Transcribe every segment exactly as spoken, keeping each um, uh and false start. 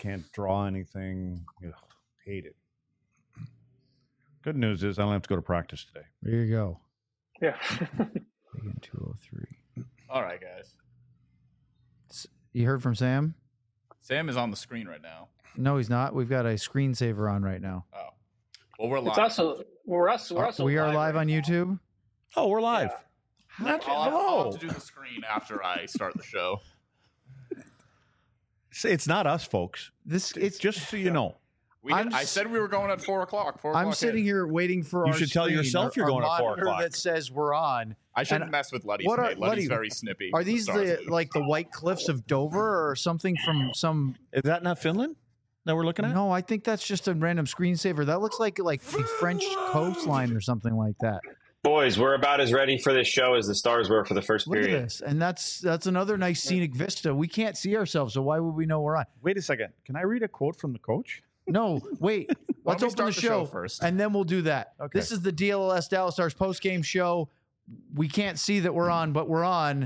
can't draw anything. Ugh, hate it. Good news is I don't have to go to practice today. There you go. Yeah. Again, two oh three. All right, guys. You heard from Sam? Sam is on the screen right now. No, he's not. We've got a screensaver on right now. Oh. Well, we're live. It's also we're us. We're Uh, also we are live, live right on now. YouTube. Oh, we're live. Yeah. Not, I'll, have, I'll hello. have to do the screen after I start the show. It's not us, folks. This It's it's just so you know. We I'm did, I s- said we were going at four o'clock. Four I'm o'clock sitting in. here waiting for You our should tell screen, yourself our- you're our going at four monitor o'clock. that says we're on. I shouldn't and- mess with Luddy's what are- today. Luddy's Luddy, very snippy. Are with these Stars the News. like the White Cliffs of Dover or something from some? Is that not Finland that we're looking at? No, I think that's just a random screensaver. That looks like like the French coastline or something like that. Boys, we're about as ready for this show as the Stars were for the first Look period. at this, and that's that's another nice scenic vista. We can't see ourselves, so why would we know we're on? Wait a second. Can I read a quote from the coach? No, wait. Why Let's don't we open the start the show, show first? and then we'll do that. Okay. This is the D L L S Dallas Stars post-game show. We can't see that we're on, but we're on.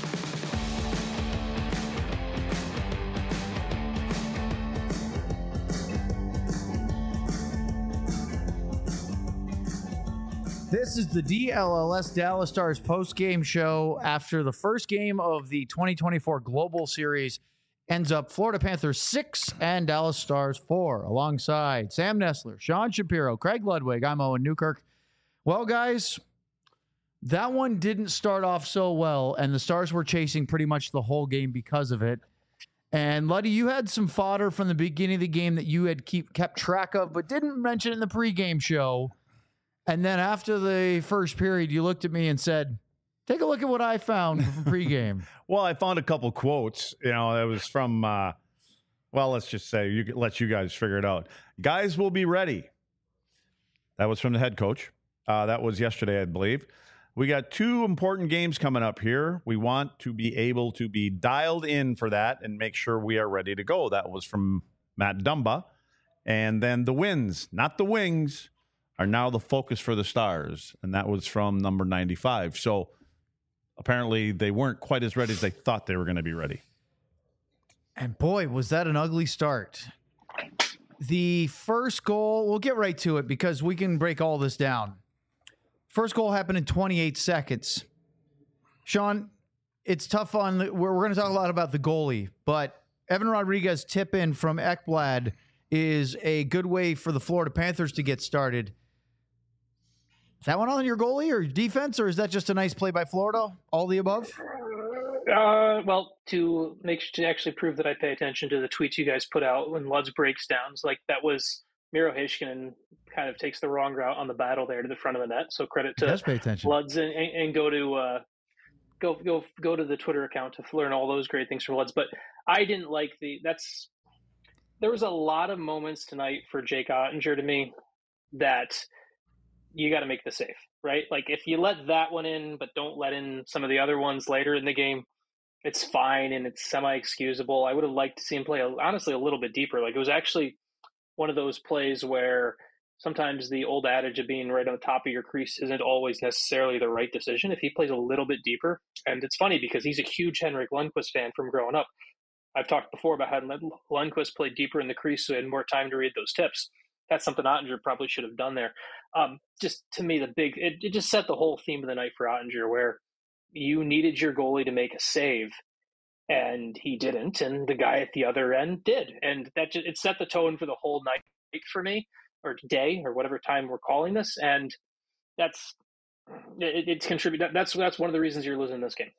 This is the D L L S Dallas Stars post-game show after the first game of the twenty twenty-four Global Series ends up Florida Panthers six and Dallas Stars four. Alongside Sam Nessler, Sean Shapiro, Craig Ludwig, I'm Owen Newkirk. Well, guys, that one didn't start off so well, and the Stars were chasing pretty much the whole game because of it. And Luddy, you had some fodder from the beginning of the game that you had keep kept track of, but didn't mention in the pregame show. And then after the first period, you looked at me and said, take a look at what I found from pregame. Well, I found a couple quotes. You know, that was from, uh, well, let's just say, you let you guys figure it out. Guys will be ready. That was from the head coach. Uh, that was yesterday, I believe. We got two important games coming up here. We want to be able to be dialed in for that and make sure we are ready to go. That was from Matt Dumba. And then the wins, not the wings, are now the focus for the Stars. And that was from number ninety-five. So apparently they weren't quite as ready as they thought they were going to be ready. And boy, was that an ugly start. The first goal, we'll get right to it because we can break all this down. First goal happened in twenty-eight seconds. Sean, it's tough on, the, we're, we're going to talk a lot about the goalie, but Evan Rodriguez tip in from Ekblad is a good way for the Florida Panthers to get started. Is that one on your goalie or defense, or is that just a nice play by Florida? All the above? Uh, well, to make to actually prove that I pay attention to the tweets you guys put out when Luds breaks down, like that was Miro Heiskanen kind of takes the wrong route on the battle there to the front of the net. So credit to Just pay attention. Luds and, and, and go to uh, go go go to the Twitter account to learn all those great things from Luds. But I didn't like the that's there was a lot of moments tonight for Jake Ottinger to me that you got to make the save, right? Like if you let that one in, but don't let in some of the other ones later in the game, it's fine and it's semi-excusable. I would have liked to see him play, honestly, a little bit deeper. Like it was actually one of those plays where sometimes the old adage of being right on the top of your crease isn't always necessarily the right decision if he plays a little bit deeper. And it's funny because he's a huge Henrik Lundqvist fan from growing up. I've talked before about how Lundqvist played deeper in the crease so he had more time to read those tips. That's something Ottinger probably should have done there. Um, just to me, the big it, it just set the whole theme of the night for Ottinger, where you needed your goalie to make a save, and he didn't, and the guy at the other end did, and that just, it set the tone for the whole night for me, or day, or whatever time we're calling this, and that's it, it's contributed. That's that's one of the reasons you're losing this game.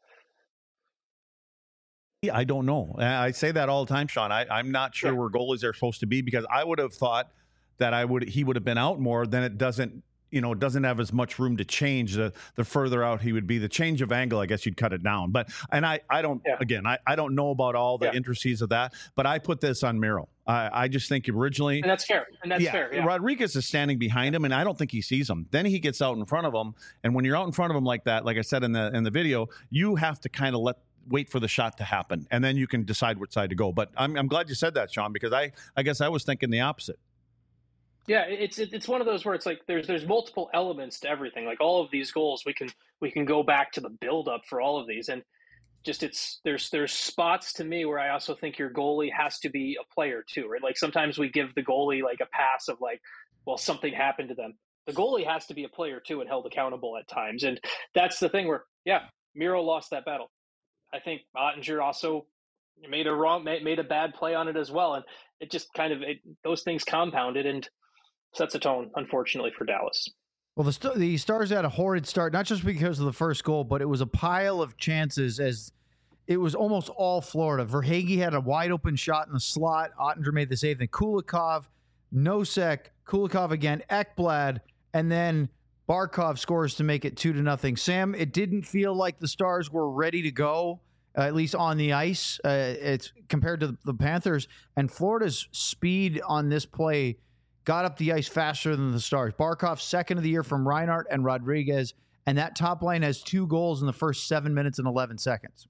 I don't know. I say that all the time, Sean. I, I'm not sure Yeah. where goalies are supposed to be because I would have thought that I would he would have been out more. Then it doesn't, you know, it doesn't have as much room to change. The the further out he would be, the change of angle, I guess you'd cut it down. But and I I don't Yeah. again I, I don't know about all the Yeah. intricacies of that. But I put this on Miro. I I just think originally. And that's fair. And that's yeah, fair. Yeah. Rodriguez is standing behind him, and I don't think he sees him. Then he gets out in front of him, and when you're out in front of him like that, like I said in the in the video, you have to kind of let wait for the shot to happen, and then you can decide which side to go. But I'm I'm glad you said that, Sean, because I I guess I was thinking the opposite. Yeah, it's it's one of those where it's like there's there's multiple elements to everything. Like all of these goals, we can we can go back to the build up for all of these, and just it's there's there's spots to me where I also think your goalie has to be a player too, right? Like sometimes we give the goalie like a pass of like, well, something happened to them. The goalie has to be a player too and held accountable at times, and that's the thing where yeah, Miro lost that battle. I think Ottinger also made a wrong made a bad play on it as well, and it just kind of it, those things compounded and sets a tone, unfortunately, for Dallas. Well, the, St- the Stars had a horrid start, not just because of the first goal, but it was a pile of chances as it was almost all Florida. Verhaeghe had a wide open shot in the slot. Ottinger made the save. Then Kulikov, Nosek, Kulikov again, Ekblad, and then Barkov scores to make it two to nothing. Sam, it didn't feel like the Stars were ready to go, uh, at least on the ice. Uh, it's compared to the, the Panthers, and Florida's speed on this play got up the ice faster than the Stars. Barkov, second of the year from Reinhart and Rodriguez, and that top line has two goals in the first seven minutes and eleven seconds.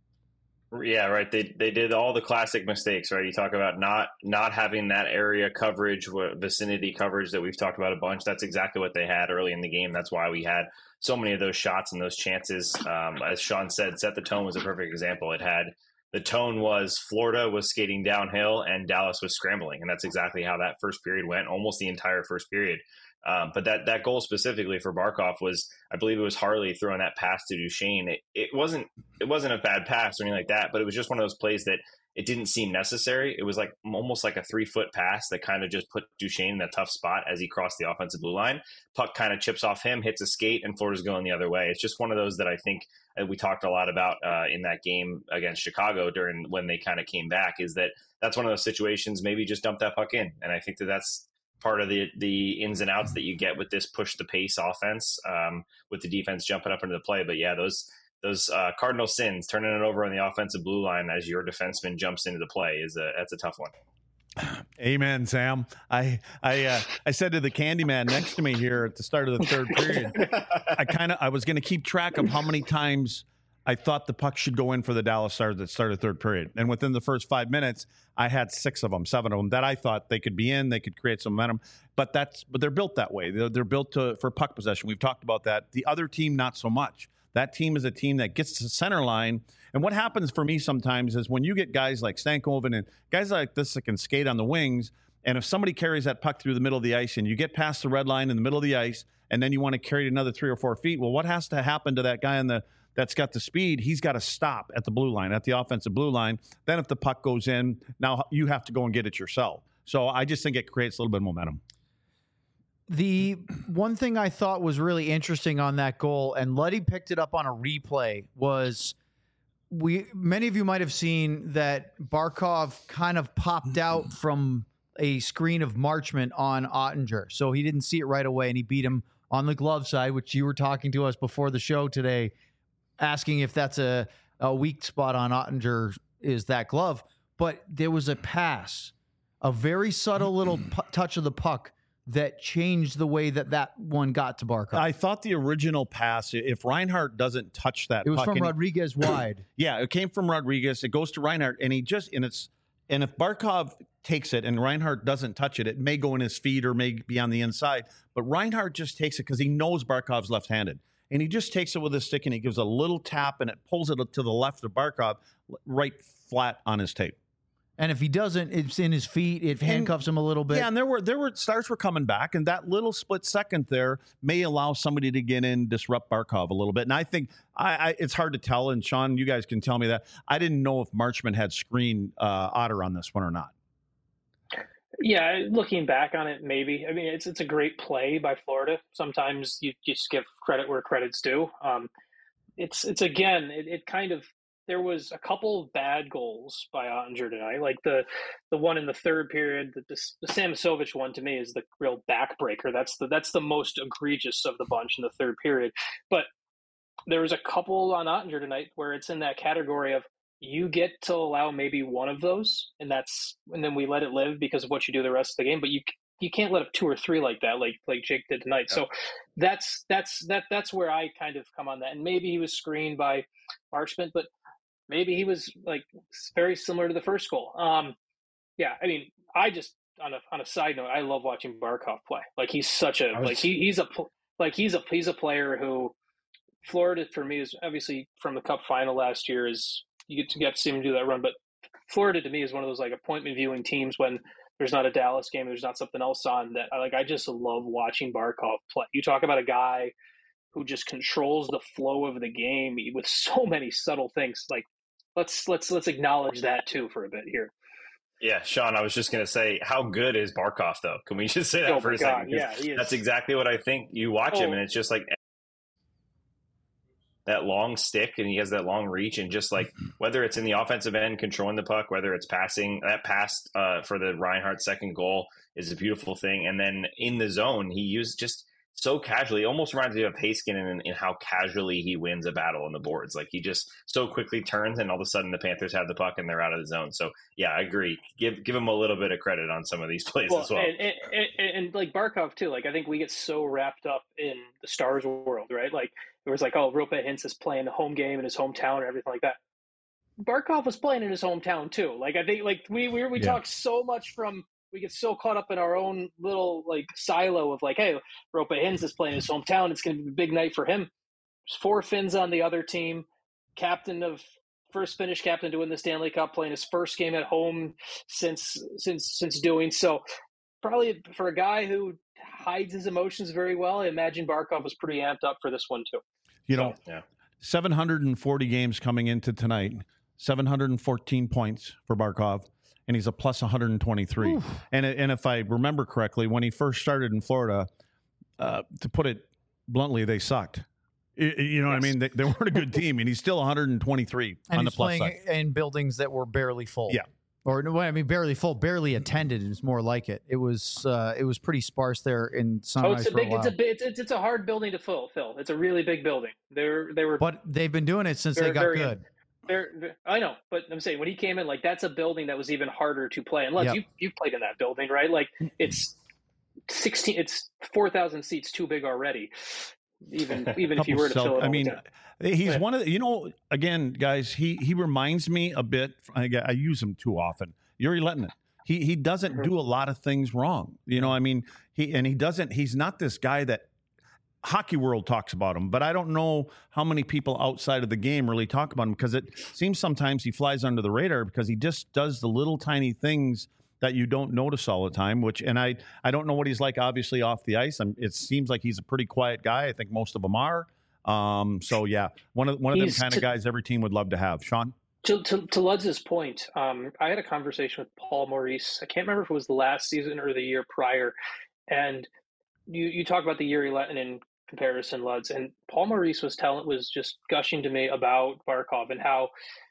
Yeah, right. They they did all the classic mistakes, right? You talk about not not having that area coverage, vicinity coverage that we've talked about a bunch. That's exactly what they had early in the game. That's why we had so many of those shots and those chances. Um, as Sean said, Set the Tone was a perfect example. It had the tone was Florida was skating downhill and Dallas was scrambling, and that's exactly how that first period went, almost the entire first period. Um, but that that goal specifically for Barkov was, I believe it was Harley throwing that pass to Duchesne. It, it wasn't it wasn't a bad pass or anything like that, but it was just one of those plays that it didn't seem necessary. It was like almost like a three foot pass that kind of just put Duchesne in a tough spot as he crossed the offensive blue line. Puck kind of chips off him, hits a skate, and Florida's going the other way. It's just one of those that I think uh, we talked a lot about uh, in that game against Chicago during when they kind of came back. Is that that's one of those situations? Maybe just dump that puck in, and I think that that's part of the the ins and outs that you get with this push the pace offense, um, with the defense jumping up into the play. But yeah, those those uh, cardinal sins, turning it over on the offensive blue line as your defenseman jumps into the play, is a that's a tough one. Amen, Sam. I I uh, I said to the Candyman next to me here at the start of the third period, I kind of I was going to keep track of how many times I thought the puck should go in for the Dallas Stars that started third period. And within the first five minutes, I had six of them, seven of them that I thought they could be in, they could create some momentum. But that's but they're built that way. They're, they're built to, for puck possession. We've talked about that. The other team, not so much. That team is a team that gets to the center line. And what happens for me sometimes is when you get guys like Stankoven and guys like this that can skate on the wings, and if somebody carries that puck through the middle of the ice and you get past the red line in the middle of the ice, and then you want to carry it another three or four feet, well, what has to happen to that guy in the that's got the speed? He's got to stop at the blue line, at the offensive blue line. Then if the puck goes in, now you have to go and get it yourself. So I just think it creates a little bit of momentum. The one thing I thought was really interesting on that goal, and Luddy picked it up on a replay, was we many of you might have seen that Barkov kind of popped out from a screen of Marchment on Ottinger. So he didn't see it right away, and he beat him on the glove side, which you were talking to us before the show today, asking if that's a, a weak spot on Ottinger is that glove. But there was a pass, a very subtle little pu- touch of the puck that changed the way that that one got to Barkov. I thought the original pass, if Reinhart doesn't touch that it was puck, from and he- Rodriguez wide. yeah, it came from Rodriguez. It goes to Reinhart, and he just and it's and if Barkov takes it and Reinhart doesn't touch it, it may go in his feet or may be on the inside. But Reinhart just takes it because he knows Barkov's left-handed, and he just takes it with his stick and he gives a little tap and it pulls it to the left of Barkov, right flat on his tape. And if he doesn't, it's in his feet. It handcuffs him a little bit. Yeah, and there were there were Stars were coming back, and that little split second there may allow somebody to get in, disrupt Barkov a little bit. And I think I, I it's hard to tell. And Sean, you guys can tell me that. I didn't know if Marchment had screened uh, Otter on this one or not. Yeah, looking back on it, maybe. I mean, it's it's a great play by Florida. Sometimes you just give credit where credit's due. Um, it's it's again, it, it kind of. There was a couple of bad goals by Ottinger tonight, like the the one in the third period. The, the, the Samasovich one to me is the real backbreaker. That's the that's the most egregious of the bunch in the third period. But there was a couple on Ottinger tonight where it's in that category of you get to allow maybe one of those, and that's and then we let it live because of what you do the rest of the game. But you you can't let up two or three like that, like like Jake did tonight. Yeah. So that's that's that that's where I kind of come on that. And maybe he was screened by Marchment, but maybe he was like very similar to the first goal. Um, yeah, I mean, I just on a on a side note, I love watching Barkov play. Like he's such a was, like he he's a like he's a he's a player who Florida for me is obviously from the Cup final last year is you get to get to see them do that run, but Florida to me is one of those like appointment viewing teams when there's not a Dallas game, there's not something else on that. I like I just love watching Barkov play. You talk about a guy who just controls the flow of the game with so many subtle things. Like let's let's let's acknowledge that too for a bit here. Yeah, Sean, I was just going to say, how good is Barkov, though? Can we just say that oh for a God, second? Yeah, he is. That's exactly what I think. You watch oh. him, and it's just like that long stick, and he has that long reach, and just like whether it's in the offensive end controlling the puck, whether it's passing, that pass uh, for the Reinhart second goal is a beautiful thing. And then in the zone, he used just so casually, it almost reminds me of Haskin in, in how casually he wins a battle on the boards. Like he just so quickly turns, and all of a sudden the Panthers have the puck and they're out of the zone. So yeah, I agree. Give give him a little bit of credit on some of these plays well, as well. And, and, and, and like Barkov too. Like I think we get so wrapped up in the Stars world, right? Like it was like, oh, Roope Hintz is playing the home game in his hometown and everything like that. Barkov was playing in his hometown too. Like I think like we we we yeah. talk so much from. We get so caught up in our own little like silo of like, hey, Roope Hintz is playing his hometown. It's going to be a big night for him. There's four Finns on the other team. Captain of first Finnish captain to win the Stanley Cup, playing his first game at home since since since doing so. Probably for a guy who hides his emotions very well, I imagine Barkov was pretty amped up for this one too. You know, so, yeah. seven hundred forty games coming into tonight, seven hundred fourteen points for Barkov. And he's a plus one hundred twenty-three. Oof. And and if I remember correctly, when he first started in Florida, uh, to put it bluntly, they sucked. It, you know yes. what I mean? They, they weren't a good team, and he's still one hundred twenty-three and on the he's plus playing side. In buildings that were barely full. Yeah. Or no, I mean, barely full, barely attended is more like it. It was uh, it was pretty sparse there in Sunrise. Oh, it's a for big, a it's a big, it's, it's a hard building to fill. Phil, it's a really big building. They're they were, but they've been doing it since they got very, good. They're, they're, I know, but I'm saying when he came in, like that's a building that was even harder to play. Unless yep. you you've played in that building, right? Like it's sixteen, it's four thousand seats too big already. Even even if you were to self, fill it. I mean, down. he's yeah. one of the, you know, again, guys, he he reminds me a bit. I, I use him too often. Yuri Lettinen. He he doesn't mm-hmm. do a lot of things wrong. You know, I mean, he and he doesn't. He's not this guy that. Hockey World talks about him, but I don't know how many people outside of the game really talk about him because it seems sometimes he flies under the radar because he just does the little tiny things that you don't notice all the time, which, and I, I don't know what he's like, obviously off the ice. I'm, it seems like he's a pretty quiet guy. I think most of them are. Um, so yeah, one of, one of them kind of guys every team would love to have. Sean? To, to, to Ludz's point, um, I had a conversation with Paul Maurice. I can't remember if it was the last season or the year prior. And you, you talk about the Yuri Lettinen comparison, Luds, and Paul Maurice was telling was just gushing to me about Barkov and how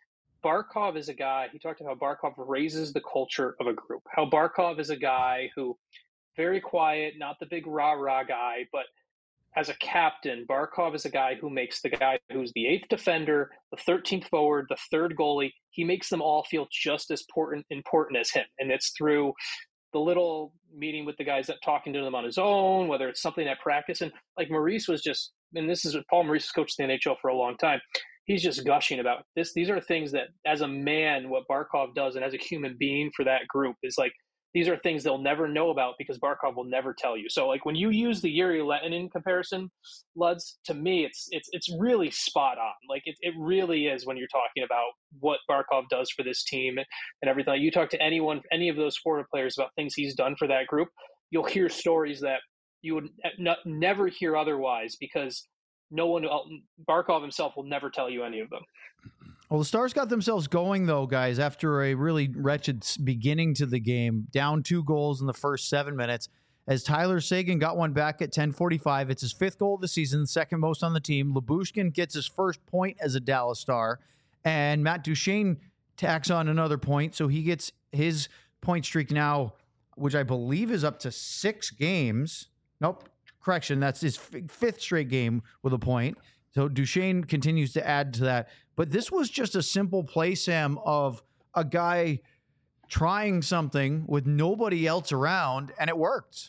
Barkov is a guy. He talked about how Barkov raises the culture of a group. How Barkov is a guy who very quiet, not the big rah rah guy, but as a captain, Barkov is a guy who makes the guy who's the eighth defender, the thirteenth forward, the third goalie. He makes them all feel just as important important as him, and it's through the little meeting with the guys that talking to them on his own, whether it's something at practice. And like Maurice was just, and this is Paul Maurice has coached the N H L for a long time. He's just gushing about this. These are things that as a man, what Barkov does, and as a human being for that group is like, these are things they'll never know about because Barkov will never tell you. So like when you use the Yuri Lettinen comparison, Luds, to me, it's, it's, it's really spot on. Like it, it really is when you're talking about what Barkov does for this team and everything. You talk to anyone, any of those forward players about things he's done for that group, you'll hear stories that you would not, never hear otherwise because no one, Barkov himself will never tell you any of them. Well, the Stars got themselves going, though, guys, after a really wretched beginning to the game, down two goals in the first seven minutes, as Tyler Seguin got one back at ten forty-five. It's his fifth goal of the season, second most on the team. Lyubushkin gets his first point as a Dallas Star, and Matt Duchene tacks on another point, so he gets his point streak now, which I believe is up to six games. Nope, correction, that's his f- fifth straight game with a point. So Duchene continues to add to that. But this was just a simple play, Sam, of a guy trying something with nobody else around, and it worked.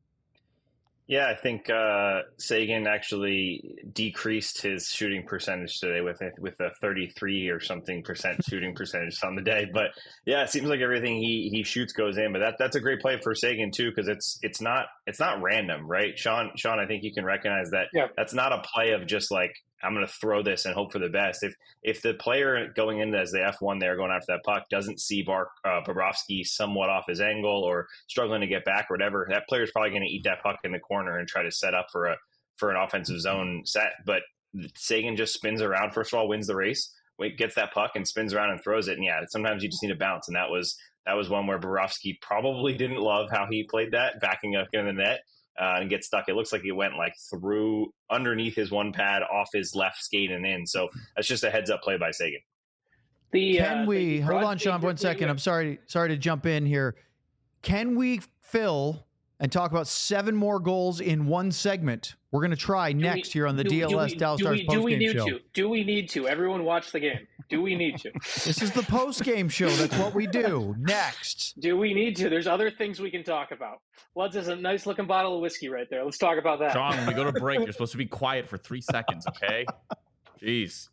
Yeah, I think uh, Seguin actually decreased his shooting percentage today with with a thirty-three or something percent shooting percentage on the day. But yeah, it seems like everything he he shoots goes in. But that that's a great play for Seguin too, because it's it's not it's not random, right? Sean Sean, I think you can recognize that. Yeah. That's not a play of just like I'm going to throw this and hope for the best. If if the player going in as the F one there going after that puck doesn't see Bar, uh, Bobrovsky somewhat off his angle or struggling to get back or whatever, that player is probably going to eat that puck in the corner and try to set up for a for an offensive zone set. But Seguin just spins around, first of all, wins the race, wait, gets that puck and spins around and throws it. And yeah, sometimes you just need a bounce. And that was that was one where Bobrovsky probably didn't love how he played that, backing up in the net. Uh, and get stuck. It looks like it went like through underneath his one pad, off his left skate and in. So that's just a heads up play by Seguin. The, Can uh, we the hold on, Sean, one second? I'm sorry, sorry to jump in here. Can we fill and talk about seven more goals in one segment? We're going to try next we, here on the do, D L S do we, Dallas do Stars we, do we postgame need show. To? Do we need to? Everyone watch the game. Do we need to? This is the postgame show. That's what we do. Next. Do we need to? There's other things we can talk about. Luds is a nice looking bottle of whiskey right there. Let's talk about that. Sean, when we go to break, you're supposed to be quiet for three seconds, okay? Jeez.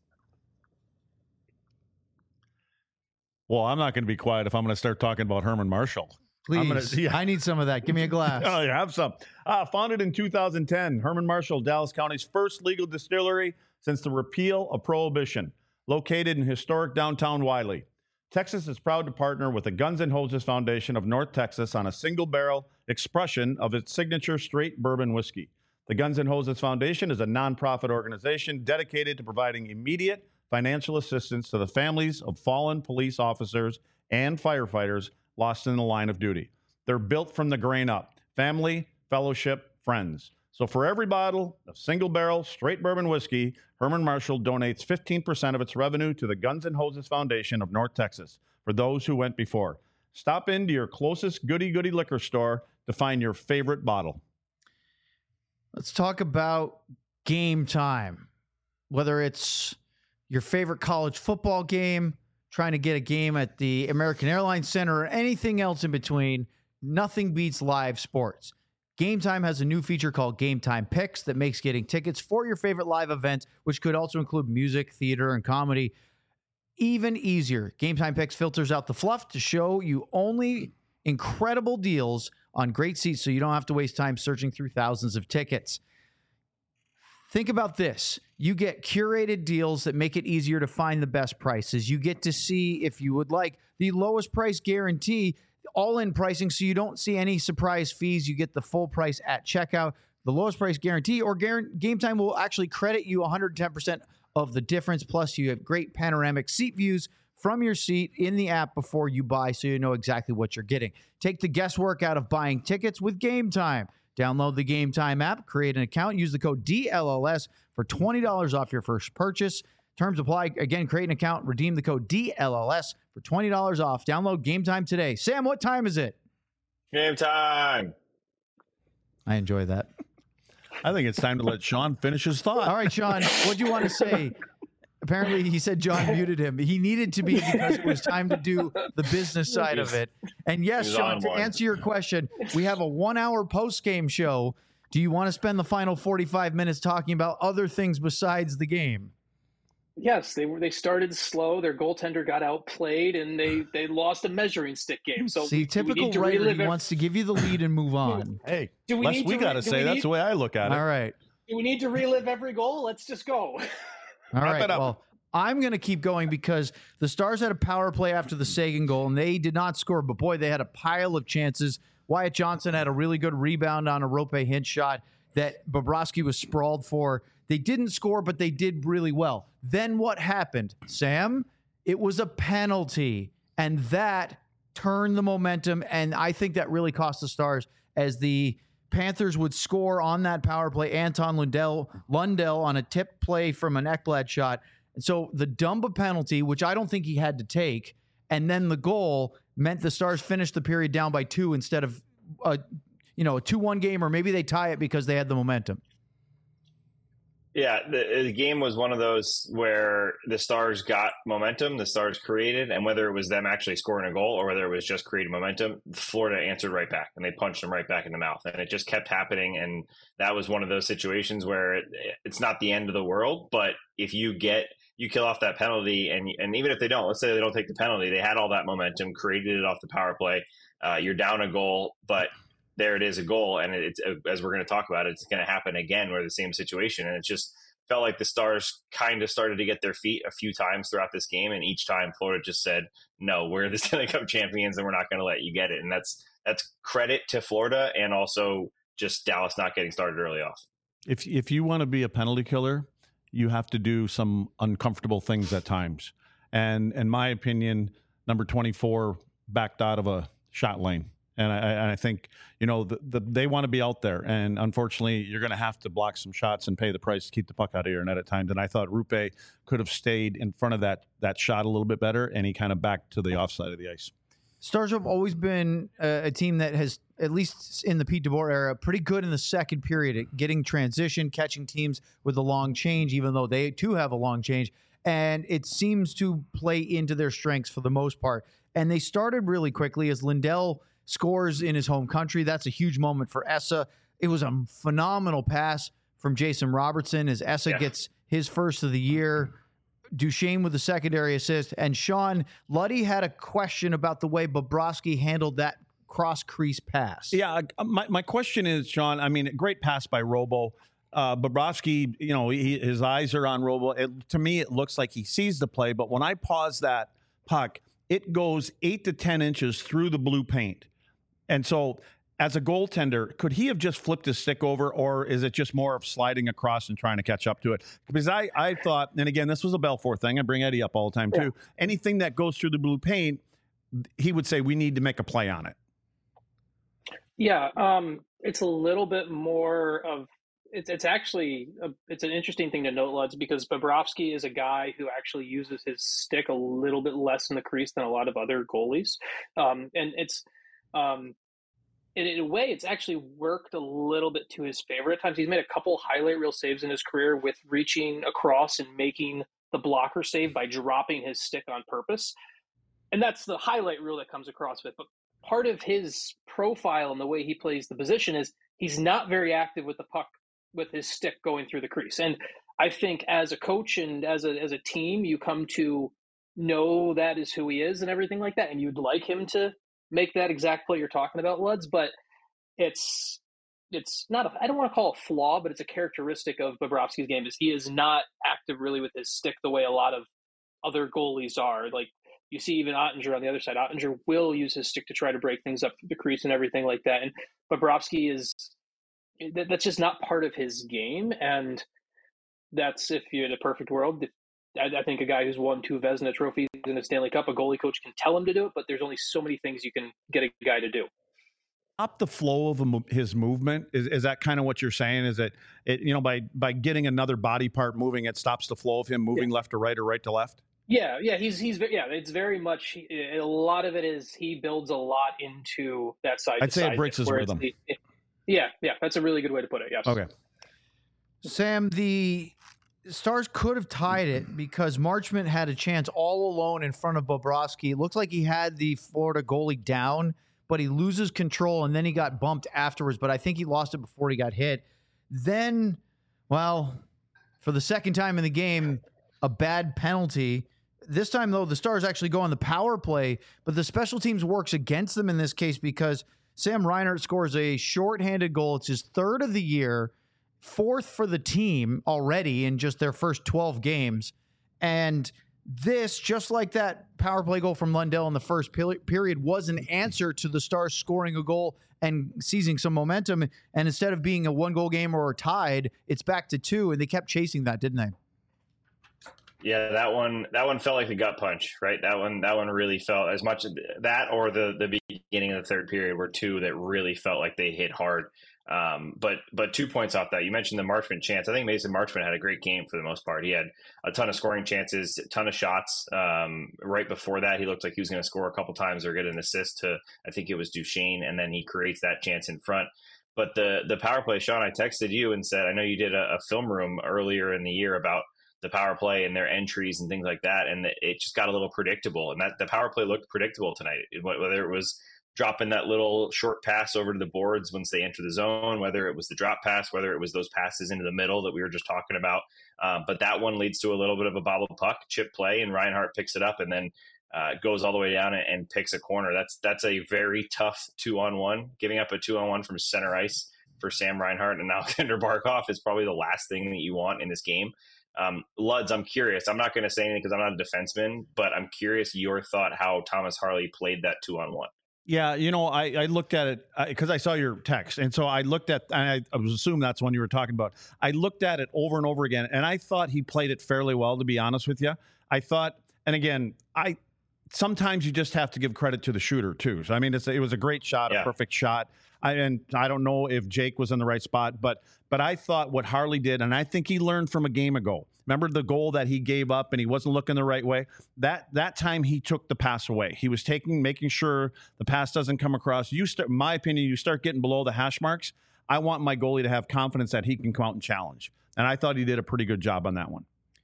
Well, I'm not going to be quiet if I'm going to start talking about Herman Marshall. Please. I'm gonna, yeah. I need some of that. Give me a glass. Oh, you have some. Uh, founded in two thousand ten, Herman Marshall, Dallas County's first legal distillery since the repeal of Prohibition, located in historic downtown Wiley. Texas is proud to partner with the Guns N' Hoses Foundation of North Texas on a single-barrel expression of its signature straight bourbon whiskey. The Guns N' Hoses Foundation is a nonprofit organization dedicated to providing immediate financial assistance to the families of fallen police officers and firefighters lost in the line of duty. They're built from the grain up. Family, fellowship, friends. So for every bottle of single-barrel straight bourbon whiskey, Herman Marshall donates fifteen percent of its revenue to the Guns N' Hoses Foundation of North Texas for those who went before. Stop into your closest goody-goody liquor store to find your favorite bottle. Let's talk about game time. Whether it's your favorite college football game, trying to get a game at the American Airlines Center, or anything else in between, nothing beats live sports. Game Time has a new feature called Game Time Picks that makes getting tickets for your favorite live events, which could also include music, theater, and comedy, even easier. Game Time Picks filters out the fluff to show you only incredible deals on great seats so you don't have to waste time searching through thousands of tickets. Think about this. You get curated deals that make it easier to find the best prices. You get to see, if you would like, the lowest price guarantee, all-in pricing, so you don't see any surprise fees. You get the full price at checkout, the lowest price guarantee, or Game Time will actually credit you one hundred ten percent of the difference. Plus, you have great panoramic seat views from your seat in the app before you buy, so you know exactly what you're getting. Take the guesswork out of buying tickets with Game Time. Download the Game Time app, create an account, use the code D L L S for twenty dollars off your first purchase. Terms apply. Again, create an account, redeem the code D L L S for twenty dollars off. Download Game Time today. Sam, what time is it? Game time. I enjoy that. I think it's time to let Sean finish his thought. All right, Sean, what do you want to say? Apparently, he said John muted him. He needed to be because it was time to do the business side of it. And yes, He's Sean, to one. answer your question, we have a one-hour post-game show. Do you want to spend the final forty-five minutes talking about other things besides the game? Yes, they were. They started slow. Their goaltender got outplayed, and they, they lost a measuring stick game. So See, do we typical need to writer, relive he it? wants to give you the lead and move on. Hey, Do we less need we to got to re- do say. we That's need- the way I look at it. All right. Do we need to relive every goal? Let's just go. All Wrap right. it up. Well, I'm going to keep going because the Stars had a power play after the Seguin goal, and they did not score. But, boy, they had a pile of chances. Wyatt Johnson had a really good rebound on a Rope Hint shot that Bobrovsky was sprawled for. They didn't score, but they did really well. Then what happened, Sam? It was a penalty, and that turned the momentum, and I think that really cost the Stars as the Panthers would score on that power play. Anton Lundell, Lundell on a tip play from an Ekblad shot. And so the Dumba penalty, which I don't think he had to take, and then the goal meant the Stars finished the period down by two instead of a, you know, a two one game, or maybe they tie it because they had the momentum. Yeah, the, the game was one of those where the Stars got momentum, the Stars created, and whether it was them actually scoring a goal or whether it was just creating momentum, Florida answered right back, and they punched them right back in the mouth. And it just kept happening, and that was one of those situations where it, it's not the end of the world, but if you get you kill off that penalty, and and even if they don't, let's say they don't take the penalty, they had all that momentum, created it off the power play, uh, you're down a goal, but there it is, a goal, and it's, as we're going to talk about, it's going to happen again where the same situation, and it's just felt like the Stars kind of started to get their feet a few times throughout this game, and each time Florida just said, no, we're the Stanley Cup champions and we're not going to let you get it. And that's that's credit to Florida, and also just Dallas not getting started early off. If if you want to be a penalty killer, you have to do some uncomfortable things at times. And in my opinion, number twenty-four backed out of a shot lane. And I, and I think, you know, the, the, they want to be out there. And unfortunately, you're going to have to block some shots and pay the price to keep the puck out of your net at times. And I thought Rupe could have stayed in front of that that shot a little bit better, and he kind of backed to the offside of the ice. Stars have always been a, a team that has, at least in the Pete DeBoer era, pretty good in the second period at getting transition, catching teams with a long change, even though they too have a long change. And it seems to play into their strengths for the most part. And they started really quickly as Lindell scores in his home country. That's a huge moment for Essa. It was a phenomenal pass from Jason Robertson as Essa yeah. gets his first of the year. Duchesne with the secondary assist. And Sean, Luddy had a question about the way Bobrovsky handled that cross-crease pass. Yeah, my, my question is, Sean, I mean, great pass by Robo. Uh, Bobrovsky, you know, he, his eyes are on Robo. It, to me, it looks like he sees the play. But when I pause that puck, it goes eight to ten inches through the blue paint. And so as a goaltender, could he have just flipped his stick over, or is it just more of sliding across and trying to catch up to it? Because I, I thought, and again, this was a Belfour thing. I bring Eddie up all the time, too. Yeah. Anything that goes through the blue paint, he would say, we need to make a play on it. Yeah, um, it's a little bit more of it's it's actually a, it's an interesting thing to note, Luds, because Bobrovsky is a guy who actually uses his stick a little bit less in the crease than a lot of other goalies, um, and it's um, in, in a way it's actually worked a little bit to his favor at times. He's made a couple highlight reel saves in his career with reaching across and making the blocker save by dropping his stick on purpose, and that's the highlight reel that comes across with. But part of his profile and the way he plays the position is he's not very active with the puck with his stick going through the crease. And I think as a coach and as a as a team, you come to know that is who he is and everything like that. And you'd like him to make that exact play you're talking about, Luds, but it's it's not a, I don't want to call it a flaw, but it's a characteristic of Bobrovsky's game is he is not active really with his stick the way a lot of other goalies are. Like you see even Ottinger on the other side. Ottinger will use his stick to try to break things up through the crease and everything like that. And Bobrovsky is that's just not part of his game. And that's, if you're in a perfect world, I, I think a guy who's won two Vezina trophies in a Stanley Cup, a goalie coach can tell him to do it, but there's only so many things you can get a guy to do. Stop the flow of his movement. Is is that kind of what you're saying? Is that it, you know, by, by getting another body part moving, it stops the flow of him moving yeah. left to right or right to left? Yeah, yeah, he's he's yeah. It's very much a lot of it is he builds a lot into that side. I'd say side it breaks his rhythm. The, it, yeah, yeah, that's a really good way to put it. Yes. Okay. Sam, the Stars could have tied it because Marchment had a chance all alone in front of Bobrovsky. It looked like he had the Florida goalie down, but he loses control and then he got bumped afterwards. But I think he lost it before he got hit. Then, well, for the second time in the game, a bad penalty. This time, though, the Stars actually go on the power play, but the special teams works against them in this case because Sam Reinhart scores a shorthanded goal. It's his third of the year, fourth for the team already in just their first twelve games. And this, just like that power play goal from Lundell in the first period, was an answer to the Stars scoring a goal and seizing some momentum. And instead of being a one-goal game or tied, it's back to two, and they kept chasing that, didn't they? Yeah, that one that one felt like a gut punch, right? That one that one really felt as much that or the the beginning of the third period were two that really felt like they hit hard. Um, but but two points off that. You mentioned the Marchment chance. I think Mason Marchment had a great game for the most part. He had a ton of scoring chances, a ton of shots. Um, right before that, he looked like he was going to score a couple times or get an assist to, I think it was Duchesne, and then he creates that chance in front. But the the power play, Sean, I texted you and said, I know you did a, a film room earlier in the year about the power play and their entries and things like that. And it just got a little predictable, and that the power play looked predictable tonight, whether it was dropping that little short pass over to the boards once they enter the zone, whether it was the drop pass, whether it was those passes into the middle that we were just talking about. Um, but that one leads to a little bit of a bobble puck chip play, and Reinhart picks it up and then uh, goes all the way down and, and picks a corner. That's, that's a very tough two on one. Giving up a two on one from center ice for Sam Reinhart and Alexander Barkov is probably the last thing that you want in this game. Um, Luds, I'm curious. I'm not going to say anything because I'm not a defenseman, but I'm curious your thought how Thomas Harley played that two on one. Yeah, you know, I, I looked at it because I saw your text. And so I looked at, and I, I was assuming that's one you were talking about. I looked at it over and over again, and I thought he played it fairly well, to be honest with you. I thought, and again, I sometimes you just have to give credit to the shooter, too. So, I mean, it's, it was a great shot, yeah. a perfect shot. I, and I don't know if Jake was in the right spot, but but I thought what Harley did, and I think he learned from a game ago. Remember the goal that he gave up and he wasn't looking the right way? That that time he took the pass away. He was taking, making sure the pass doesn't come across. You start, in my opinion, you start getting below the hash marks. I want my goalie to have confidence that he can come out and challenge. And I thought he did a pretty good job on that one.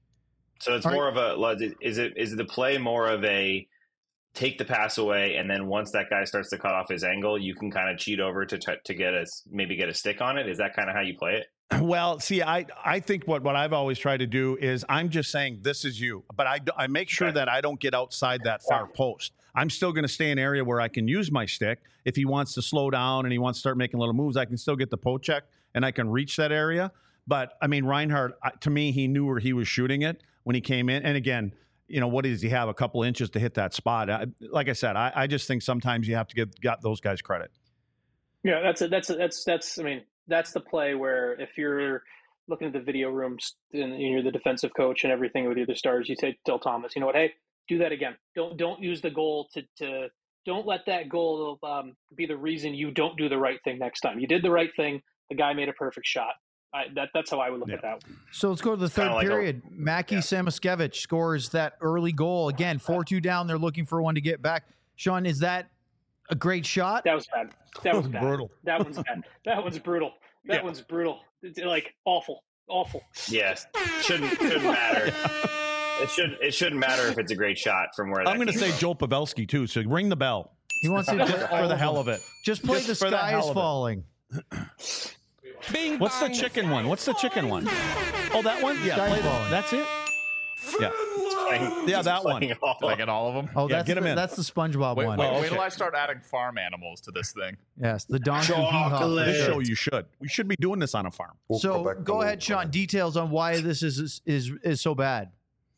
So it's All more right. of a, is it is the play more of a take the pass away, and then once that guy starts to cut off his angle, you can kind of cheat over to t- to get a maybe get a stick on it? Is that kind of how you play it? Well, see, I, I think what, what I've always tried to do is I'm just saying this is you, but I, I make sure Okay. that I don't get outside that far post. I'm still going to stay in an area where I can use my stick. If he wants to slow down and he wants to start making little moves, I can still get the poke check and I can reach that area. But, I mean, Reinhart, to me, he knew where he was shooting it when he came in. And, again, you know, what does he have? A couple inches to hit that spot. I, like I said, I, I just think sometimes you have to give got those guys credit. Yeah, that's a, that's a, that's that's. I mean, that's the play where if you're looking at the video rooms and you're the defensive coach and everything with the other stars, you say, tell Thomas, you know what? Hey, do that again. Don't don't use the goal to to don't let that goal um, be the reason you don't do the right thing next time. You did the right thing. The guy made a perfect shot. I, that that's how I would look Yeah. at that. So let's go to the third Kinda like a- period. Mackie yeah. Samoskevich scores that early goal. Again, four two down. They're looking for one to get back. Sean, is that a great shot? That was bad. That was bad. Brutal. That one's bad. That one's brutal. That Yeah. one's brutal. It's like awful, awful. Yes, shouldn't shouldn't matter. It should it shouldn't matter if it's a great shot from where. That I'm going to came say from. Joe Pavelski, too, so ring the bell. He wants to Just for the hell of it. Just play Just the for the sky hell is of it. falling. Bing, What's the bang. chicken one? What's the chicken one? Oh, that one? Yeah, Sky's play that. falling. That's it? Yeah. Playing- Yeah, that one. playing all- Did I get all of them? Oh, Yeah, that's get him the, in. that's the SpongeBob Wait, one. wait, Oh, wait okay. till I start adding farm animals to this thing. Yes, the donkey hee haw. Chocolate. This show you should. We should be doing this on a farm. So go ahead, Sean. Details on why this is is is, is so bad.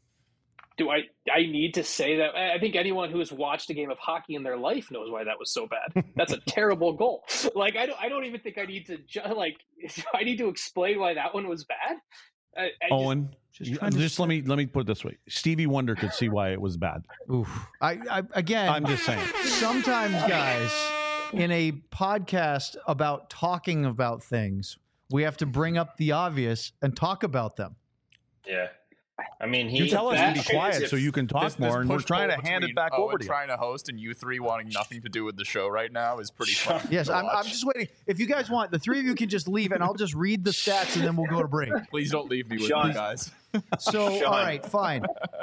Do I I need to say that? I I think anyone who has watched a game of hockey in their life knows why that was so bad. That's a terrible goal. Like I don't I don't even think I need to ju- like I need to explain why that one was bad. I, I just- Owen, Just just, trying to- let me let me put it this way. Stevie Wonder could see why it was bad. Oof. I, I again. I'm just saying. Sometimes, guys, in a podcast about talking about things, we have to bring up the obvious and talk about them. Yeah, I mean, he You tell us that to be quiet so you can talk This- this more, and we're push trying to pull hand it between back Owen over to you. trying to host and you three wanting nothing to do with the show right now is pretty fun. Yes, to I'm, I'm watch. just waiting. If you guys want, the three of you can just leave, and I'll just read the stats, and then we'll go to break. Please don't leave me with Sean. you guys. So, Sean. all right, fine.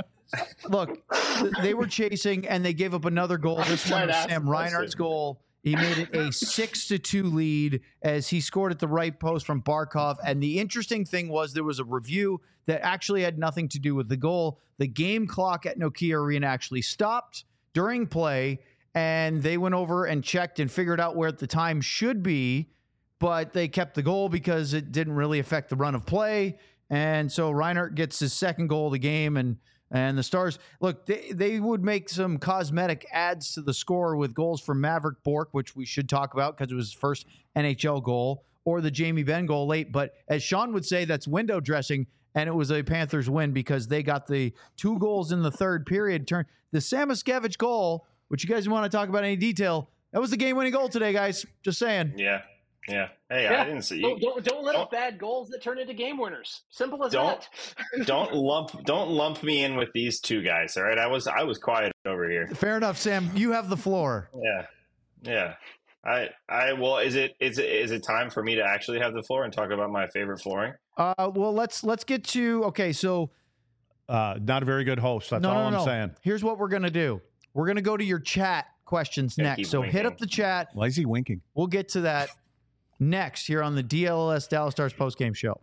Look, th- they were chasing, and they gave up another goal. This one trying to was ask Sam the Reinhart's question. goal. He made it a six to two lead as he scored at the right post from Barkov. And the interesting thing was there was a review that actually had nothing to do with the goal. The game clock at Nokia Arena actually stopped during play, and they went over and checked and figured out where the time should be, but they kept the goal because it didn't really affect the run of play. And so Reinhardt gets his second goal of the game, and and the Stars, look, they, they would make some cosmetic adds to the score with goals from Maverick Bourque, which we should talk about because it was his first N H L goal, or the Jamie Benn goal late. But as Sean would say, that's window dressing, and it was a Panthers win because they got the two goals in the third period. Turn the Samoskevich goal, which you guys want to talk about any detail, that was the game-winning goal today, guys. Just saying. Yeah, yeah. Hey, Yeah. I didn't see Don't, you. don't, don't let don't- up bad goals that turn into game winners. Simple as Don't- that. Don't lump don't lump me in with these two guys. All right, I was I was quiet over here. Fair enough, Sam. You have the floor. Yeah, yeah. I I well, is it is it is it time for me to actually have the floor and talk about my favorite flooring? Uh, well, let's let's get to okay. So Uh, not a very good host. That's no, all no, I'm no. saying. Here's what we're gonna do. We're gonna go to your chat questions Yeah, next. keep So hit winking. up the chat. Why is he winking? We'll get to that next here on the D L L S Dallas Stars postgame show.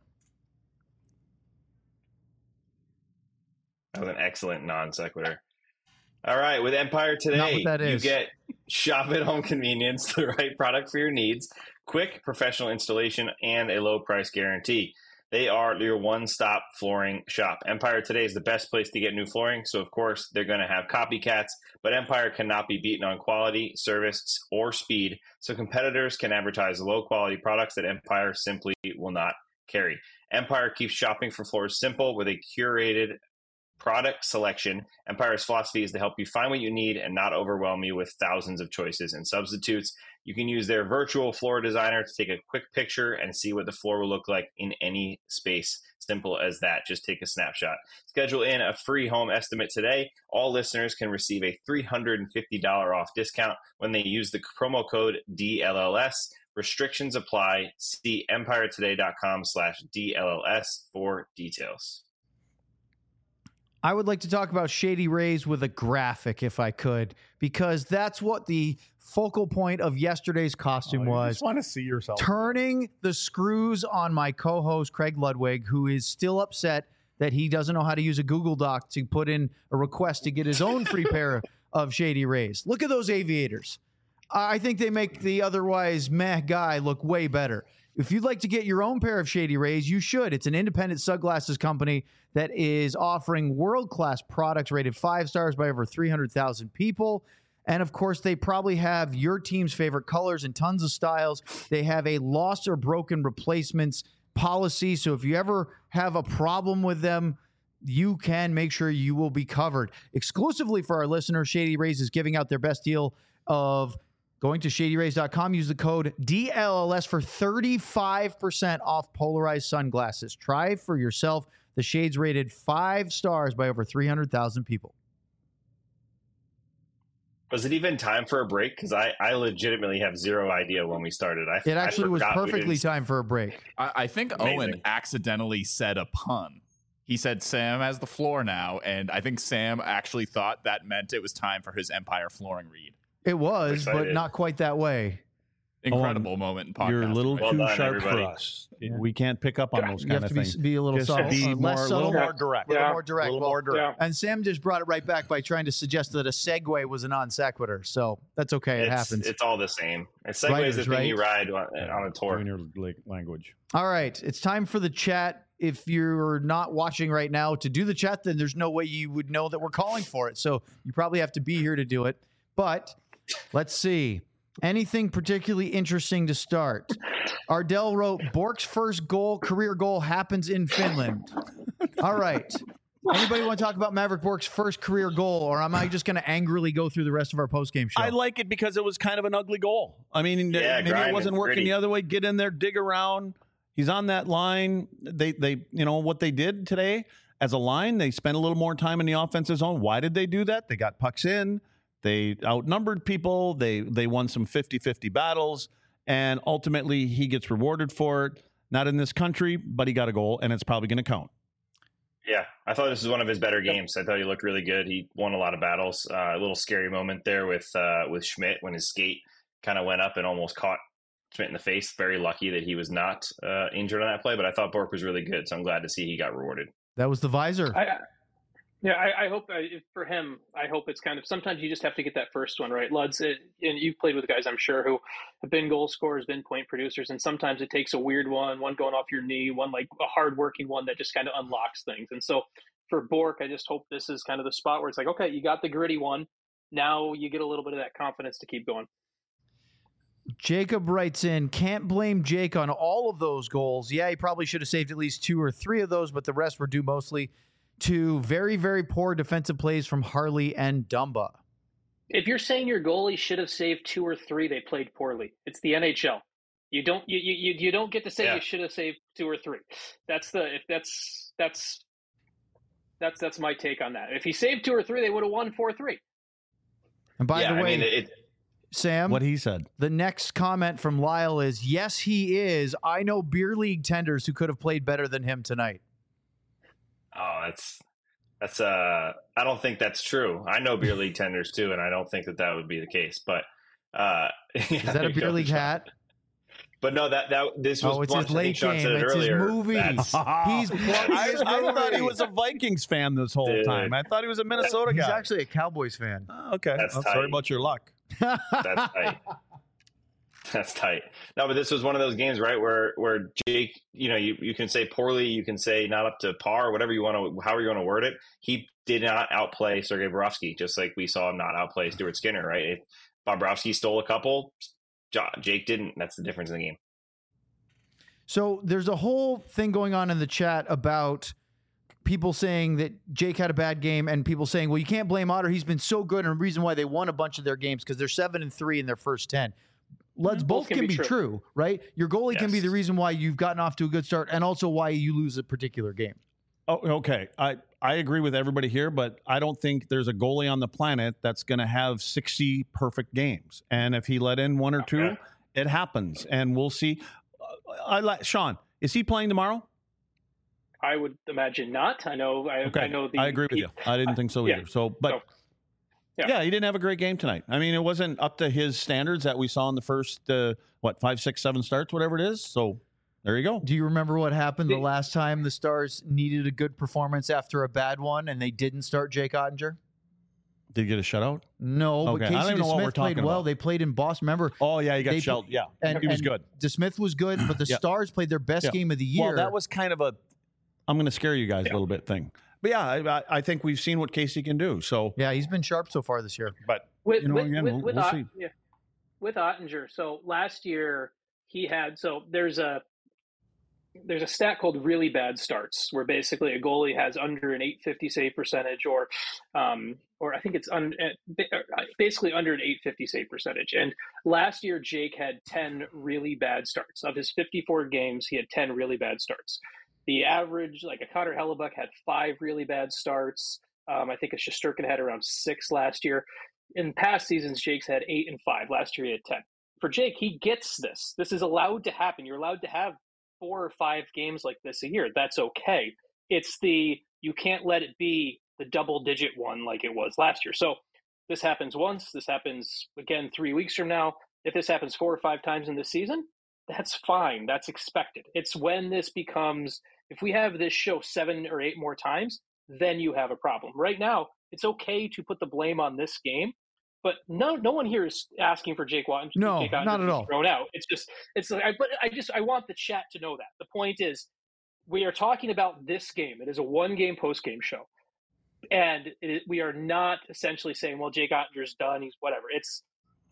That was an excellent non sequitur. All right, with Empire Not today, what that you is. get Shop at Home Convenience, the right product for your needs, quick professional installation, and a low price guarantee. They are your one-stop flooring shop. Empire Today is the best place to get new flooring, so of course they're going to have copycats, but Empire cannot be beaten on quality, service, or speed, so competitors can advertise low-quality products that Empire simply will not carry. Empire keeps shopping for floors simple with a curated product selection. Empire's philosophy is to help you find what you need and not overwhelm you with thousands of choices and substitutes. You can use their virtual floor designer to take a quick picture and see what the floor will look like in any space. Simple as that. Just take a snapshot. Schedule in a free home estimate today. All listeners can receive a three hundred fifty dollars off discount when they use the promo code D L L S. Restrictions apply. See empiretoday.com slash DLLS for details. I would like to talk about Shady Rays with a graphic, if I could, because that's what the focal point of yesterday's costume Oh, you was. just want to see yourself. Turning the screws on my co-host, Craig Ludwig, who is still upset that he doesn't know how to use a Google Doc to put in a request to get his own free pair of Shady Rays. Look at those aviators. I think they make the otherwise meh guy look way better. If you'd like to get your own pair of Shady Rays, you should. It's an independent sunglasses company that is offering world-class products rated five stars by over three hundred thousand people. And, of course, they probably have your team's favorite colors and tons of styles. They have a lost or broken replacements policy. So if you ever have a problem with them, you can make sure you will be covered. Exclusively for our listeners, Shady Rays is giving out their best deal of going to shady rays dot com, use the code D L L S for thirty-five percent off polarized sunglasses. Try for yourself. The shades rated five stars by over three hundred thousand people. Was it even time for a break? Because I, I legitimately have zero idea when we started. I, It actually I was forgot we perfectly didn't- timed for a break. I, I think Amazing. Owen accidentally said a pun. He said Sam has the floor now, and I think Sam actually thought that meant it was time for his Empire flooring read. It was, but Excited. not quite that way. Incredible moment in podcast. You're a little Well too done, sharp everybody. for us. Yeah. We can't pick up on those You kind have of to be, things. be a little Just subtle, be uh, more, less a subtle, little more direct. a little Yeah. more direct. A little Well, more direct. Yeah. And Sam just brought it right back by trying to suggest that a segue was a non sequitur. So that's okay. It it's, happens. It's all the same. And Segway Writers, is the thing right? you ride on, on a tour. Doing your like, language. All right. It's time for the chat. If you're not watching right now, to do the chat, then there's no way you would know that we're calling for it. So you probably have to be here to do it. But let's see. Anything particularly interesting to start? Ardell wrote, Bork's first goal, career goal, happens in Finland. All right. Anybody want to talk about Maverick Bork's first career goal, or am I just going to angrily go through the rest of our postgame show? I like it because it was kind of an ugly goal. I mean, Yeah, maybe it grinding, wasn't working gritty. the other way. Get in there, dig around. He's on that line. They, they, you know what they did today as a line. They spent a little more time in the offensive zone. Why did they do that? They got pucks in. They outnumbered people. They, they won some fifty-fifty battles, and ultimately he gets rewarded for it. Not in this country, but he got a goal, and it's probably going to count. Yeah, I thought this was one of his better games. I thought he looked really good. He won a lot of battles. Uh, a little scary moment there with uh, with Schmidt when his skate kind of went up and almost caught Schmidt in the face. Very lucky that he was not uh, injured on that play, but I thought Bork was really good, so I'm glad to see he got rewarded. That was the visor. I, yeah, I, I hope uh, for him, I hope it's kind of, sometimes you just have to get that first one right. Luds, it, and you've played with guys, I'm sure, who have been goal scorers, been point producers, and sometimes it takes a weird one, one going off your knee, one like a hard-working one that just kind of unlocks things. And so for Bork, I just hope this is kind of the spot where it's like, okay, you got the gritty one. Now you get a little bit of that confidence to keep going. Jacob writes in, can't blame Jake on all of those goals. Yeah, he probably should have saved at least two or three of those, but the rest were due mostly to very, very poor defensive plays from Harley and Dumba. If you're saying your goalie should have saved two or three, they played poorly. It's the N H L. You don't you you, you don't get to say Yeah. you should have saved two or three. That's the if that's that's that's that's my take on that. If he saved two or three, they would have won four three. And by yeah, the way, I mean, it, Sam, What he said. the next comment from Lyle is, yes, he is. I know beer league tenders who could have played better than him tonight. oh, that's that's uh, I don't think that's true. I know beer league tenders too, and I don't think that that would be the case. But uh, Is that a beer league hat? But no, that that this was Oh, it's blunt. his I think late Sean game. said it It's his earlier. movie. That's- He's plugging I, his I thought he movie. was a Vikings fan this whole Dude. time. I thought he was a Minnesota He's guy. actually a Cowboys fan. Oh, okay. That's I'm sorry tight. about your luck. That's tight. That's tight. No, but this was one of those games, right, where where Jake, you know, you, you can say poorly, you can say not up to par, whatever you want to, however you want to word it. He did not outplay Sergei Bobrovsky, just like we saw him not outplay Stuart Skinner, right? If Bobrovsky stole a couple, Jake didn't. That's the difference in the game. So there's a whole thing going on in the chat about people saying that Jake had a bad game and people saying, well, you can't blame Otter. He's been so good, and the reason why they won a bunch of their games because they're seven and three in their first ten. Let's both, both can, can be, be true. true, right? Your goalie yes. can be the reason why you've gotten off to a good start and also why you lose a particular game. Oh, okay. I, I agree with everybody here, but I don't think there's a goalie on the planet that's going to have sixty perfect games. And if he let in one or two, okay. it happens. And we'll see. I like Sean. Is he playing tomorrow? I would imagine not. I know. I, okay. I know. The, I agree with he, you. I didn't think so either. Yeah. So, but so, yeah. yeah, he didn't have a great game tonight. I mean, it wasn't up to his standards that we saw in the first uh, what five, six, seven starts, whatever it is. So there you go. Do you remember what happened the last time the Stars needed a good performance after a bad one, and they didn't start Jake Ottinger? Did he get a shutout? No, okay. but Casey DeSmith played well. About. They played in Boston. Remember? Oh, yeah, he got they, shelled. Yeah, and, he was and good. DeSmith was good, but the yeah. Stars played their best yeah. game of the year. Well, that was kind of a, I'm going to scare you guys yeah. a little bit thing. But, yeah, I, I think we've seen what Casey can do. So yeah, he's been sharp so far this year. But, with, you know, with, again, with, we'll, with, we'll Ott- see. Yeah. With Ottinger, so last year he had, so there's a, there's a stat called really bad starts where basically a goalie has under an eight fifty save percentage or um, or I think it's un, basically under an eight fifty save percentage. And last year Jake had ten really bad starts. Of his fifty-four games, he had ten really bad starts. The average, like a Connor Hellebuck had five really bad starts. Um, I think a Shesterkin had around six last year. In past seasons, Jake's had eight and five. Last year he had ten. For Jake, he gets this. This is allowed to happen. You're allowed to have four or five games like this a year. That's okay. It's the, you can't let it be the double digit one like it was last year. So this happens once, this happens again three weeks from now. If this happens four or five times in this season, that's fine. That's expected. It's when this becomes, if we have this show seven or eight more times, then you have a problem. Right now, it's okay to put the blame on this game. But no, no one here is asking for Jake Watton. No, Jake not at all. Thrown out. It's just, it's like, I, but I just, I want the chat to know that. The point is, we are talking about this game. It is a one-game post-game show, and it, we are not essentially saying, well, Jake Ottinger's done. He's whatever. It's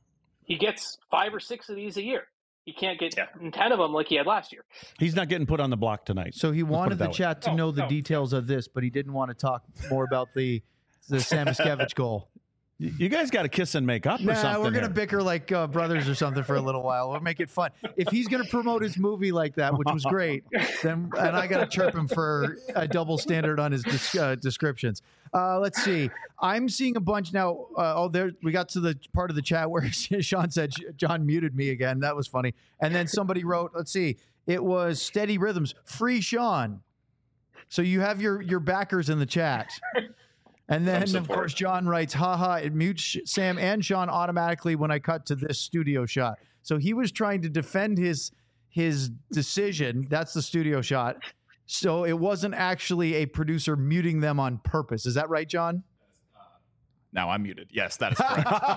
he gets five or six of these a year. He can't get yeah. ten of them like he had last year. He's not getting put on the block tonight. So he wanted the way. chat to oh, know the oh. details of this, but he didn't want to talk more about the the Samoskevich goal. You guys got to kiss and make up or nah, something. We're going to here. bicker like uh, brothers or something for a little while. We'll make it fun. If he's going to promote his movie like that, which was great, then and I got to chirp him for a double standard on his des- uh, descriptions. Uh, let's see. I'm seeing a bunch now. Uh, oh, there we got to the part of the chat where Sean said John muted me again. That was funny. And then somebody wrote, let's see, it was Steady Rhythms, free Sean. So you have your your backers in the chat. And then, of course, John writes, haha, it mutes Sam and Sean automatically when I cut to this studio shot. So he was trying to defend his his decision. That's the studio shot. So it wasn't actually a producer muting them on purpose. Is that right, John? Now I'm muted. Yes, that is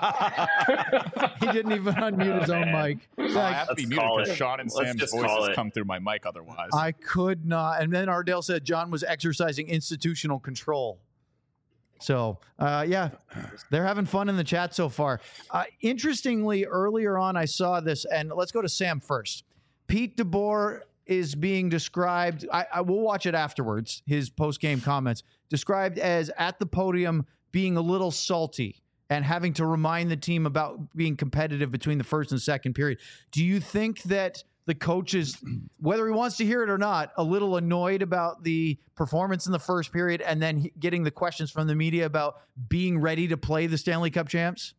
correct. He didn't even unmute his own mic. Well, I have to be muted because Sean and Let's Sam's voices come through my mic otherwise. I could not. And then Ardell said John was exercising institutional control. So, uh, yeah, they're having fun in the chat so far. Uh, interestingly, earlier on, I saw this, and let's go to Sam first. Pete DeBoer is being described, I, I will watch it afterwards, his post-game comments, described as at the podium being a little salty and having to remind the team about being competitive between the first and second period. Do you think that the coach is, whether he wants to hear it or not, a little annoyed about the performance in the first period and then getting the questions from the media about being ready to play the Stanley Cup champs?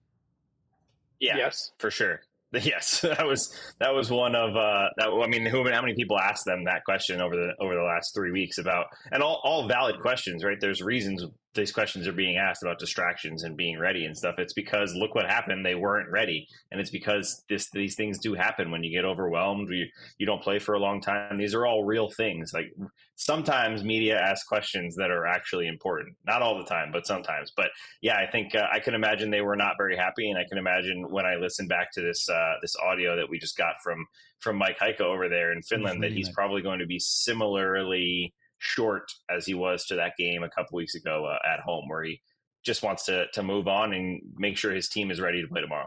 Yeah, yes, for sure. Yes, that was that was one of uh, that. I mean, who, how many people asked them that question over the over the last three weeks about, and all, all valid questions, right? There's reasons these questions are being asked about distractions and being ready and stuff, it's because look what happened. They weren't ready. And it's because this, these things do happen when you get overwhelmed, you, you don't play for a long time. These are all real things. Like sometimes media asks questions that are actually important, not all the time, but sometimes. But yeah, I think uh, I can imagine they were not very happy. And I can imagine when I listen back to this, uh, this audio that we just got from, from Mike Heiko over there in Finland, that he's probably going to be similarly short as he was to that game a couple weeks ago uh, at home, where he just wants to to move on and make sure his team is ready to play tomorrow.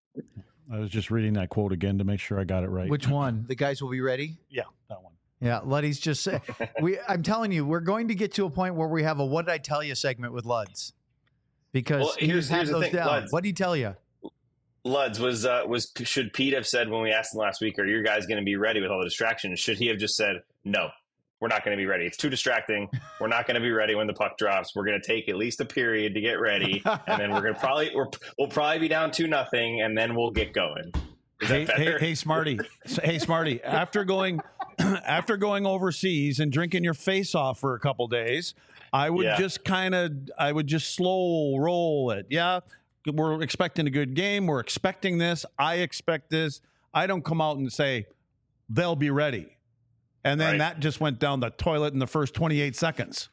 I was just reading that quote again to make sure I got it right. Which one? The guys will be ready? Yeah, that one. Yeah, Luddy's just say, we I'm telling you, we're going to get to a point where we have a what did I tell you segment with Luds. Because well, here's, he has here's those the thing, down. Luds, What did he tell you? Luds was uh, was should Pete have said when we asked him last week, are your guys going to be ready with all the distractions? Should he have just said no? We're not going to be ready. It's too distracting. We're not going to be ready when the puck drops. We're going to take at least a period to get ready, and then we're going to probably we're, we'll probably be down two nothing, and then we'll get going. Is hey, that hey, better? hey, Smarty. Hey, Smarty. After going after going overseas and drinking your face off for a couple days, I would Yeah. just kind of I would just slow roll it. Yeah, we're expecting a good game. We're expecting this. I expect this. I don't come out and say they'll be ready. And then Right. that just went down the toilet in the first twenty-eight seconds.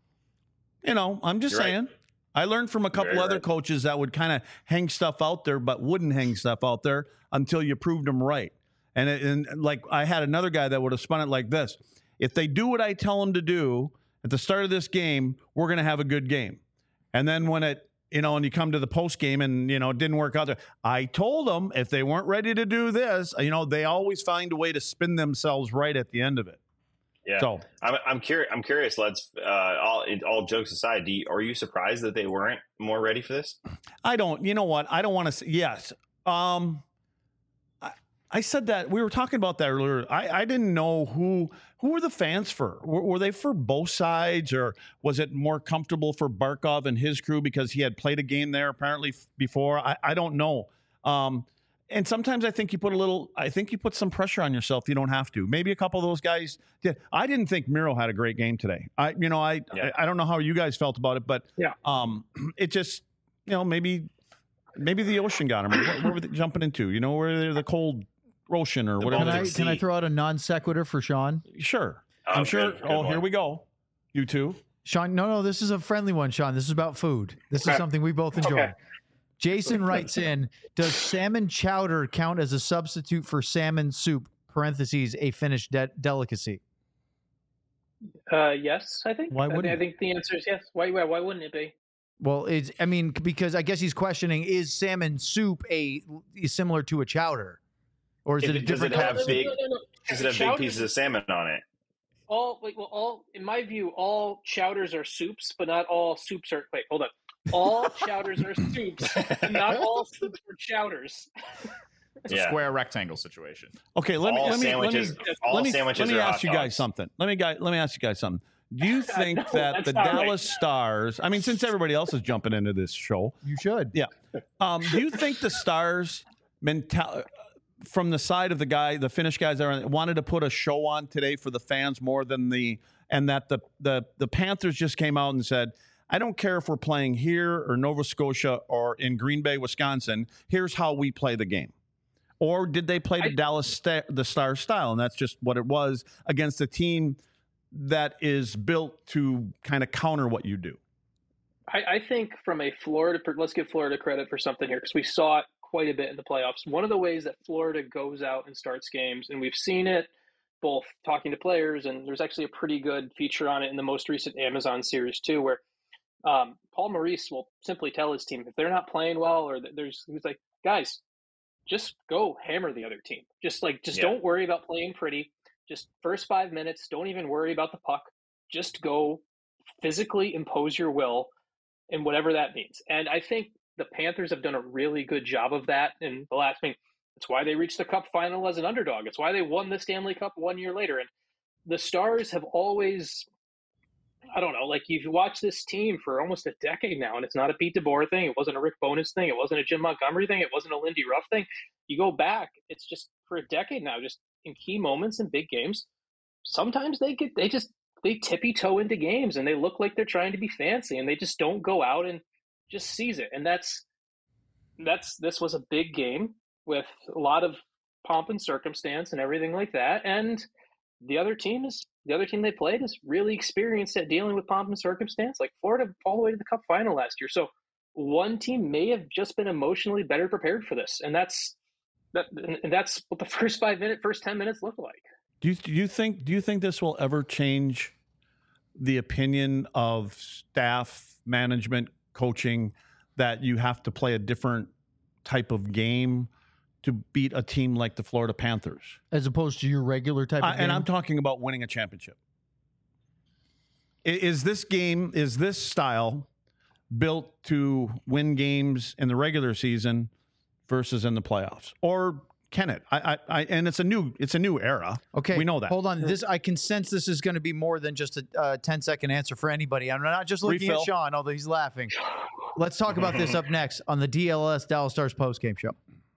You know, I'm just You're right. saying. I learned from a couple Very other right. coaches that would kind of hang stuff out there, but wouldn't hang stuff out there until you proved them right. And, it, and like I had another guy that would have spun it like this. If they do what I tell them to do at the start of this game, we're going to have a good game. And then when it, you know, and you come to the post game and, you know, it didn't work out there. I told them if they weren't ready to do this, you know, they always find a way to spin themselves right at the end of it. Yeah, So I'm I'm curious. I'm curious. Let's uh, all all jokes aside. Do you, are you surprised that they weren't more ready for this? I don't, you know what? I don't want to say, yes. Um, I, I said that we were talking about that earlier. I, I didn't know who, who were the fans for. Were, were they for both sides, or was it more comfortable for Barkov and his crew because he had played a game there apparently f- before? I, I don't know. Um, and sometimes I think you put a little, I think you put some pressure on yourself. You don't have to. Maybe a couple of those guys did. I didn't think Miro had a great game today. I, you know, I, Yeah. I, I don't know how you guys felt about it, but Yeah. um, it just, you know, maybe, maybe the ocean got him. What, what were they jumping into? You know, where they're the cold ocean or The whatever. Can I Baltic can I Sea. throw out a non sequitur for Sean? Sure. Oh, I'm sure. good, good oh, one. here we go. You two. Sean, no, no, this is a friendly one, Sean. This is about food. This is Okay. something we both enjoy. Okay. Jason writes in, does salmon chowder count as a substitute for salmon soup, parentheses, a Finnish de- delicacy? Uh, yes, I think. Why I, thi- wouldn't I it? think the answer is yes. Why? Why, why wouldn't it be? Well, it's, I mean, because I guess he's questioning, is salmon soup a similar to a chowder? Or is If it a it- does different it have kind of soup? big- No, no, no. Does it have Chowder- big pieces of salmon on it? all wait, well, all in my view, all chowders are soups, but not all soups are. Wait, hold on. All chowders are soups, and not all soups are chowders. It's a Yeah. square rectangle situation. Okay, let me all let me let me sandwiches. all let me, sandwiches let me are ask hot you guys dogs. something. Let me guys let me ask you guys something. Do you think No, that that's the not right. Dallas Stars? I mean, since everybody else is jumping into this show, You should. yeah. Um, do you think the Stars mental from the side of the guy, the Finnish guys that are, wanted to put a show on today for the fans more than the, and that the the the Panthers just came out and said, I don't care if we're playing here or Nova Scotia or in Green Bay, Wisconsin. Here's how we play the game. Or did they play the I- Dallas sta- the Star style, and that's just what it was against a team that is built to kind of counter what you do? I, I think from a Florida, let's give Florida credit for something here because we saw it quite a bit in the playoffs. One of the ways that Florida goes out and starts games, and we've seen it both talking to players, and there's actually a pretty good feature on it in the most recent Amazon series too, where um, Paul Maurice will simply tell his team if they're not playing well, or there's he's like, guys, just go hammer the other team. Just like, just Yeah. don't worry about playing pretty. Just first five minutes, don't even worry about the puck. Just go physically impose your will, and whatever that means. And I think the Panthers have done a really good job of that in the last. I mean, it's why they reached the Cup final as an underdog. It's why they won the Stanley Cup one year later. And the Stars have always, I don't know, like you've watched this team for almost a decade now, and it's not a Pete DeBoer thing. It wasn't a Rick Bowness thing. It wasn't a Jim Montgomery thing. It wasn't a Lindy Ruff thing. You go back, it's just for a decade now, just in key moments in big games, sometimes they get, they just they tippy toe into games and they look like they're trying to be fancy and they just don't go out and just seize it. And that's that's this was a big game with a lot of pomp and circumstance and everything like that. And the other team is the other team they played is really experienced at dealing with pomp and circumstance, like Florida all the way to the Cup final last year. So one team may have just been emotionally better prepared for this, and that's that. And that's what the first five minute, first ten minutes looked like. Do you do you think do you think this will ever change the opinion of staff, management, coaching that you have to play a different type of game to beat a team like the Florida Panthers, as opposed to your regular type of uh, game? And I'm talking about winning a championship. Is this game, is this style built to win games in the regular season versus in the playoffs, or can it? I, I, I and it's a new, it's a new era. Okay, we know that. Hold on, this I can sense this is going to be more than just a uh, ten second answer for anybody. I'm not just looking Refill. at Sean, although he's laughing. Let's talk about this up next on the D L S Dallas Stars postgame show.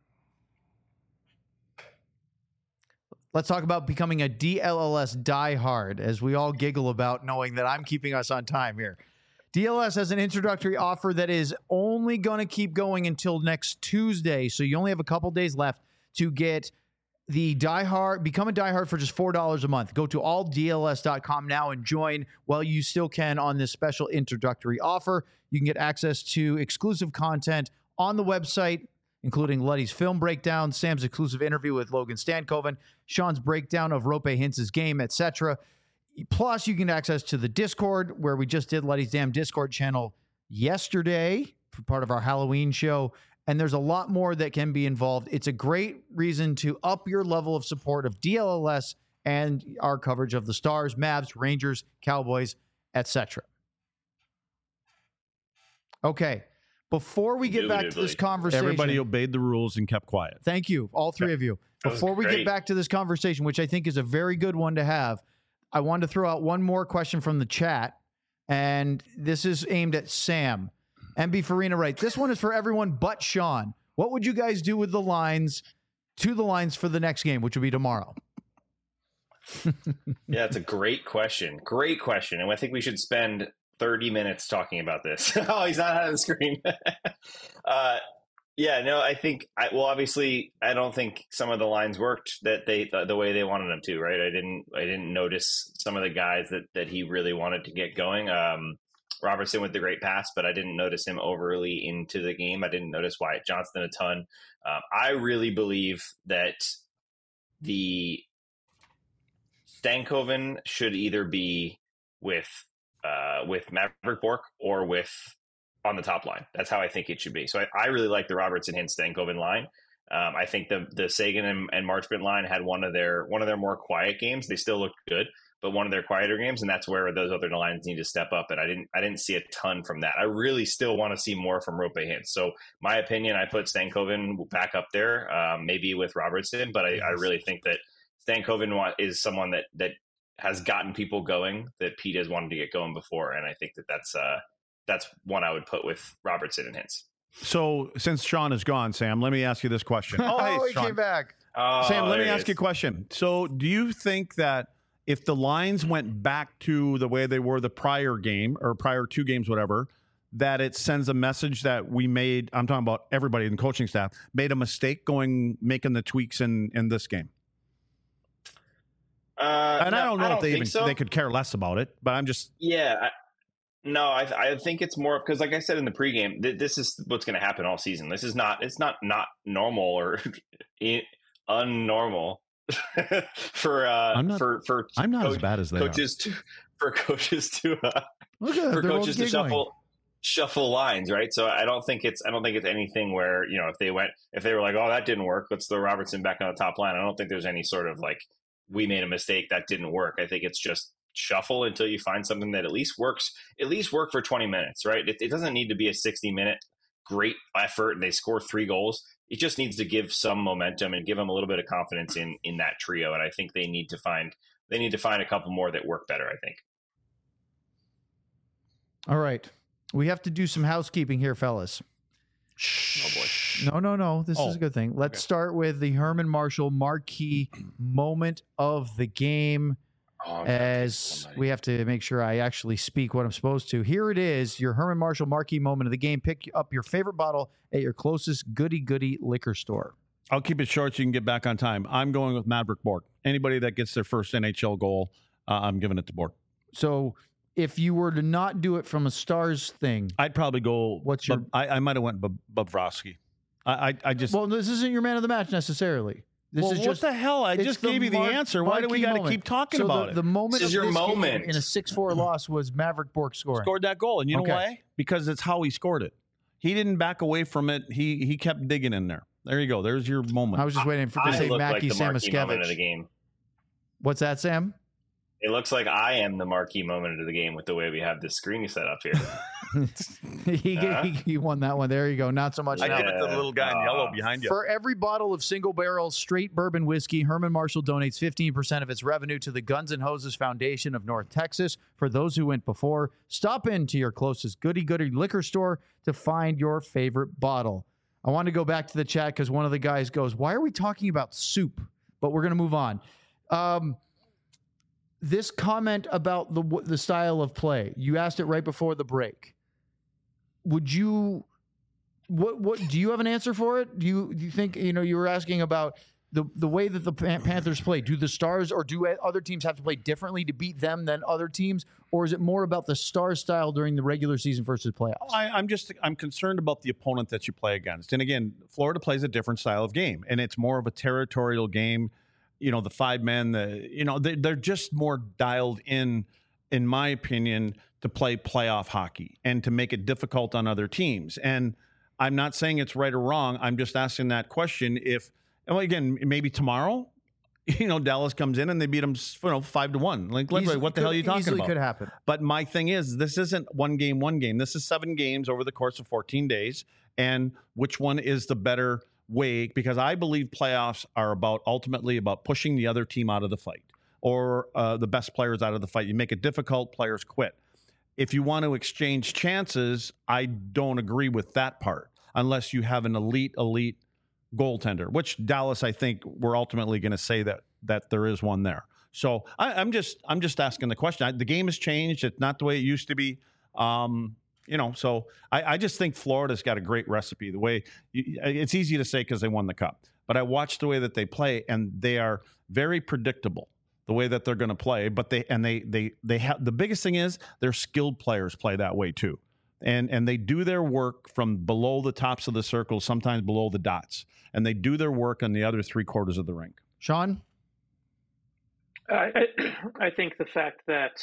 Let's talk about becoming a D L L S diehard, as we all giggle about knowing that I'm keeping us on time here. D L S has an introductory offer that is only going to keep going until next Tuesday, so you only have a couple days left to get the diehard, become a diehard for just four dollars a month. Go to all D L S dot com now and join while you still can on this special introductory offer. You can get access to exclusive content on the website, including Luddy's film breakdown, Sam's exclusive interview with Logan Stankoven, Sean's breakdown of Rope Hintz's game, et cetera. Plus, you can get access to the Discord, where we just did Luddy's Damn Discord channel yesterday for part of our Halloween show. And there's a lot more that can be involved. It's a great reason to up your level of support of D L L S and our coverage of the Stars, Mavs, Rangers, Cowboys, et cetera. Okay. Before we get back to this conversation, Everybody obeyed the rules and kept quiet. Thank you, all three of you. Before we get back to this conversation, which I think is a very good one to have, I wanted to throw out one more question from the chat, and this is aimed at Sam. M B Farina writes, this one is for everyone but Sean. What would you guys do with the lines, to the lines for the next game, which would be tomorrow? Yeah, it's a great question. Great question. And I think we should spend thirty minutes talking about this. Oh, he's not out of the screen. uh, yeah, no, I think, I, well, obviously, I don't think some of the lines worked that they the, the way they wanted them to, right? I didn't I didn't notice some of the guys that, that he really wanted to get going. Um, Robertson with the great pass, but I didn't notice him overly into the game. I didn't notice Wyatt Johnston a ton. Um, I really believe that the Stankoven should either be with uh, with Maverick Bork or with on the top line. That's how I think it should be. So I, I really like the Robertson Hintz Stankoven line. Um, I think the the Sagan and, and Marchment line had one of their one of their more quiet games. They still looked good, but one of their quieter games, and that's where those other lines need to step up. And I didn't I didn't see a ton from that. I really still want to see more from Rope Hintz. So my opinion, I put Stankoven back up there, um, maybe with Robertson, but I, I really think that Stankoven is someone that that has gotten people going that Pete has wanted to get going before, and I think that that's uh, that's one I would put with Robertson and Hintz. So since Sean is gone, Sam, let me ask you this question. Oh, hey, he Sean. came back. Oh, Sam, let me there it ask is. you a question. So do you think that if the lines went back to the way they were the prior game or prior two games, whatever, that it sends a message that we made, I'm talking about everybody in the coaching staff, made a mistake going, making the tweaks in, in this game? Uh, And no, I don't know I if they think even, so. they could care less about it, but I'm just, Yeah. I, no, I, I think it's more because, like I said in the pregame, th- this is what's going to happen all season. This is not, it's not not normal or unnormal for uh I'm not- for for I'm not as coach- bad as they coaches to, for coaches to uh, Look at for they're coaches all to giggling. shuffle shuffle lines, right? So I don't think it's I don't think it's anything where, you know, if they went if they were like, oh, that didn't work, let's throw Robertson back on the top line. I don't think there's any sort of like, we made a mistake, that didn't work. I think it's just shuffle until you find something that at least works, at least work for twenty minutes, right? It, it doesn't need to be a sixty minute great effort and they score three goals. It just needs to give some momentum and give them a little bit of confidence in in that trio. And I think they need to find they need to find a couple more that work better, I think. All right. We have to do some housekeeping here, fellas. Oh boy. No, no, no. This Oh, is a good thing. Let's okay. start with the Herman Marshall marquee moment of the game. Oh, I'm as somebody. we have to make sure I actually speak what I'm supposed to. Here it is, your Herman Marshall marquee moment of the game. Pick up your favorite bottle at your closest goody-goody liquor store. I'll keep it short so you can get back on time. I'm going with Maverick Bork. Anybody that gets their first N H L goal, uh, I'm giving it to Bork. So if you were to not do it from a Stars thing, I'd probably go. What's your- Bub- I, I might have went Bub- Bobrovsky. I, I, I just. well, this isn't your man of the match necessarily. This well, is what just the hell? I it's just the gave you the mar- answer. Why do we marquee got to moment. keep talking so about the, it? the moment This is of your this game moment. in a six four loss was Maverick Bork scoring. Scored that goal, and you know Okay. why? Because it's how he scored it. He didn't back away from it. He he kept digging in there. There you go. There's your moment. I was just waiting for to I say look like Mackie the marquee moment of the Samoskevich. game. What's that, Sam? It looks like I am the marquee moment of the game with the way we have this screen set up here. he, Uh-huh. he he won that one. There you go. Not so much. I now. give it to the little guy in Yeah. yellow behind you. For every bottle of single barrel straight bourbon whiskey, Herman Marshall donates fifteen percent of its revenue to the Guns N' Hoses Foundation of North Texas. For those who went before, stop into your closest goody goody liquor store to find your favorite bottle. I want to go back to the chat because one of the guys goes, "Why are we talking about soup?" But we're going to move on. Um, this comment about the the style of play, you asked it right before the break. Would you? What what do you have an answer for it? Do you do you think you know you were asking about the the way that the Pan- Panthers play? Do the Stars or do other teams have to play differently to beat them than other teams, or is it more about the Stars style during the regular season versus playoffs? I, I'm just I'm concerned about the opponent that you play against. And again, Florida plays a different style of game, and it's more of a territorial game. You know, the five men, the you know they, they're just more dialed in, in my opinion, to play playoff hockey and to make it difficult on other teams. And I'm not saying it's right or wrong. I'm just asking that question. If well, again, maybe tomorrow, you know, Dallas comes in and they beat them, you know, five to one. Like, Easily what the hell are you could- talking easily about? could happen. But my thing is, this isn't one game, one game. This is seven games over the course of fourteen days. And which one is the better way? Because I believe playoffs are about ultimately about pushing the other team out of the fight or uh, the best players out of the fight. You make it difficult, players quit. If you want to exchange chances, I don't agree with that part unless you have an elite, elite goaltender, which Dallas, I think we're ultimately going to say that that there is one there. So I, I'm just I'm just asking the question. I, the game has changed. It's not the way it used to be. Um, you know, so I, I just think Florida's got a great recipe. The way you, it's easy to say because they won the cup, but I watched the way that they play, and they are very predictable. The way that they're going to play, but they and they they they have the biggest thing is their skilled players play that way too, and and they do their work from below the tops of the circle, sometimes below the dots, and they do their work on the other three quarters of the rink. Sean? I, I I think the fact that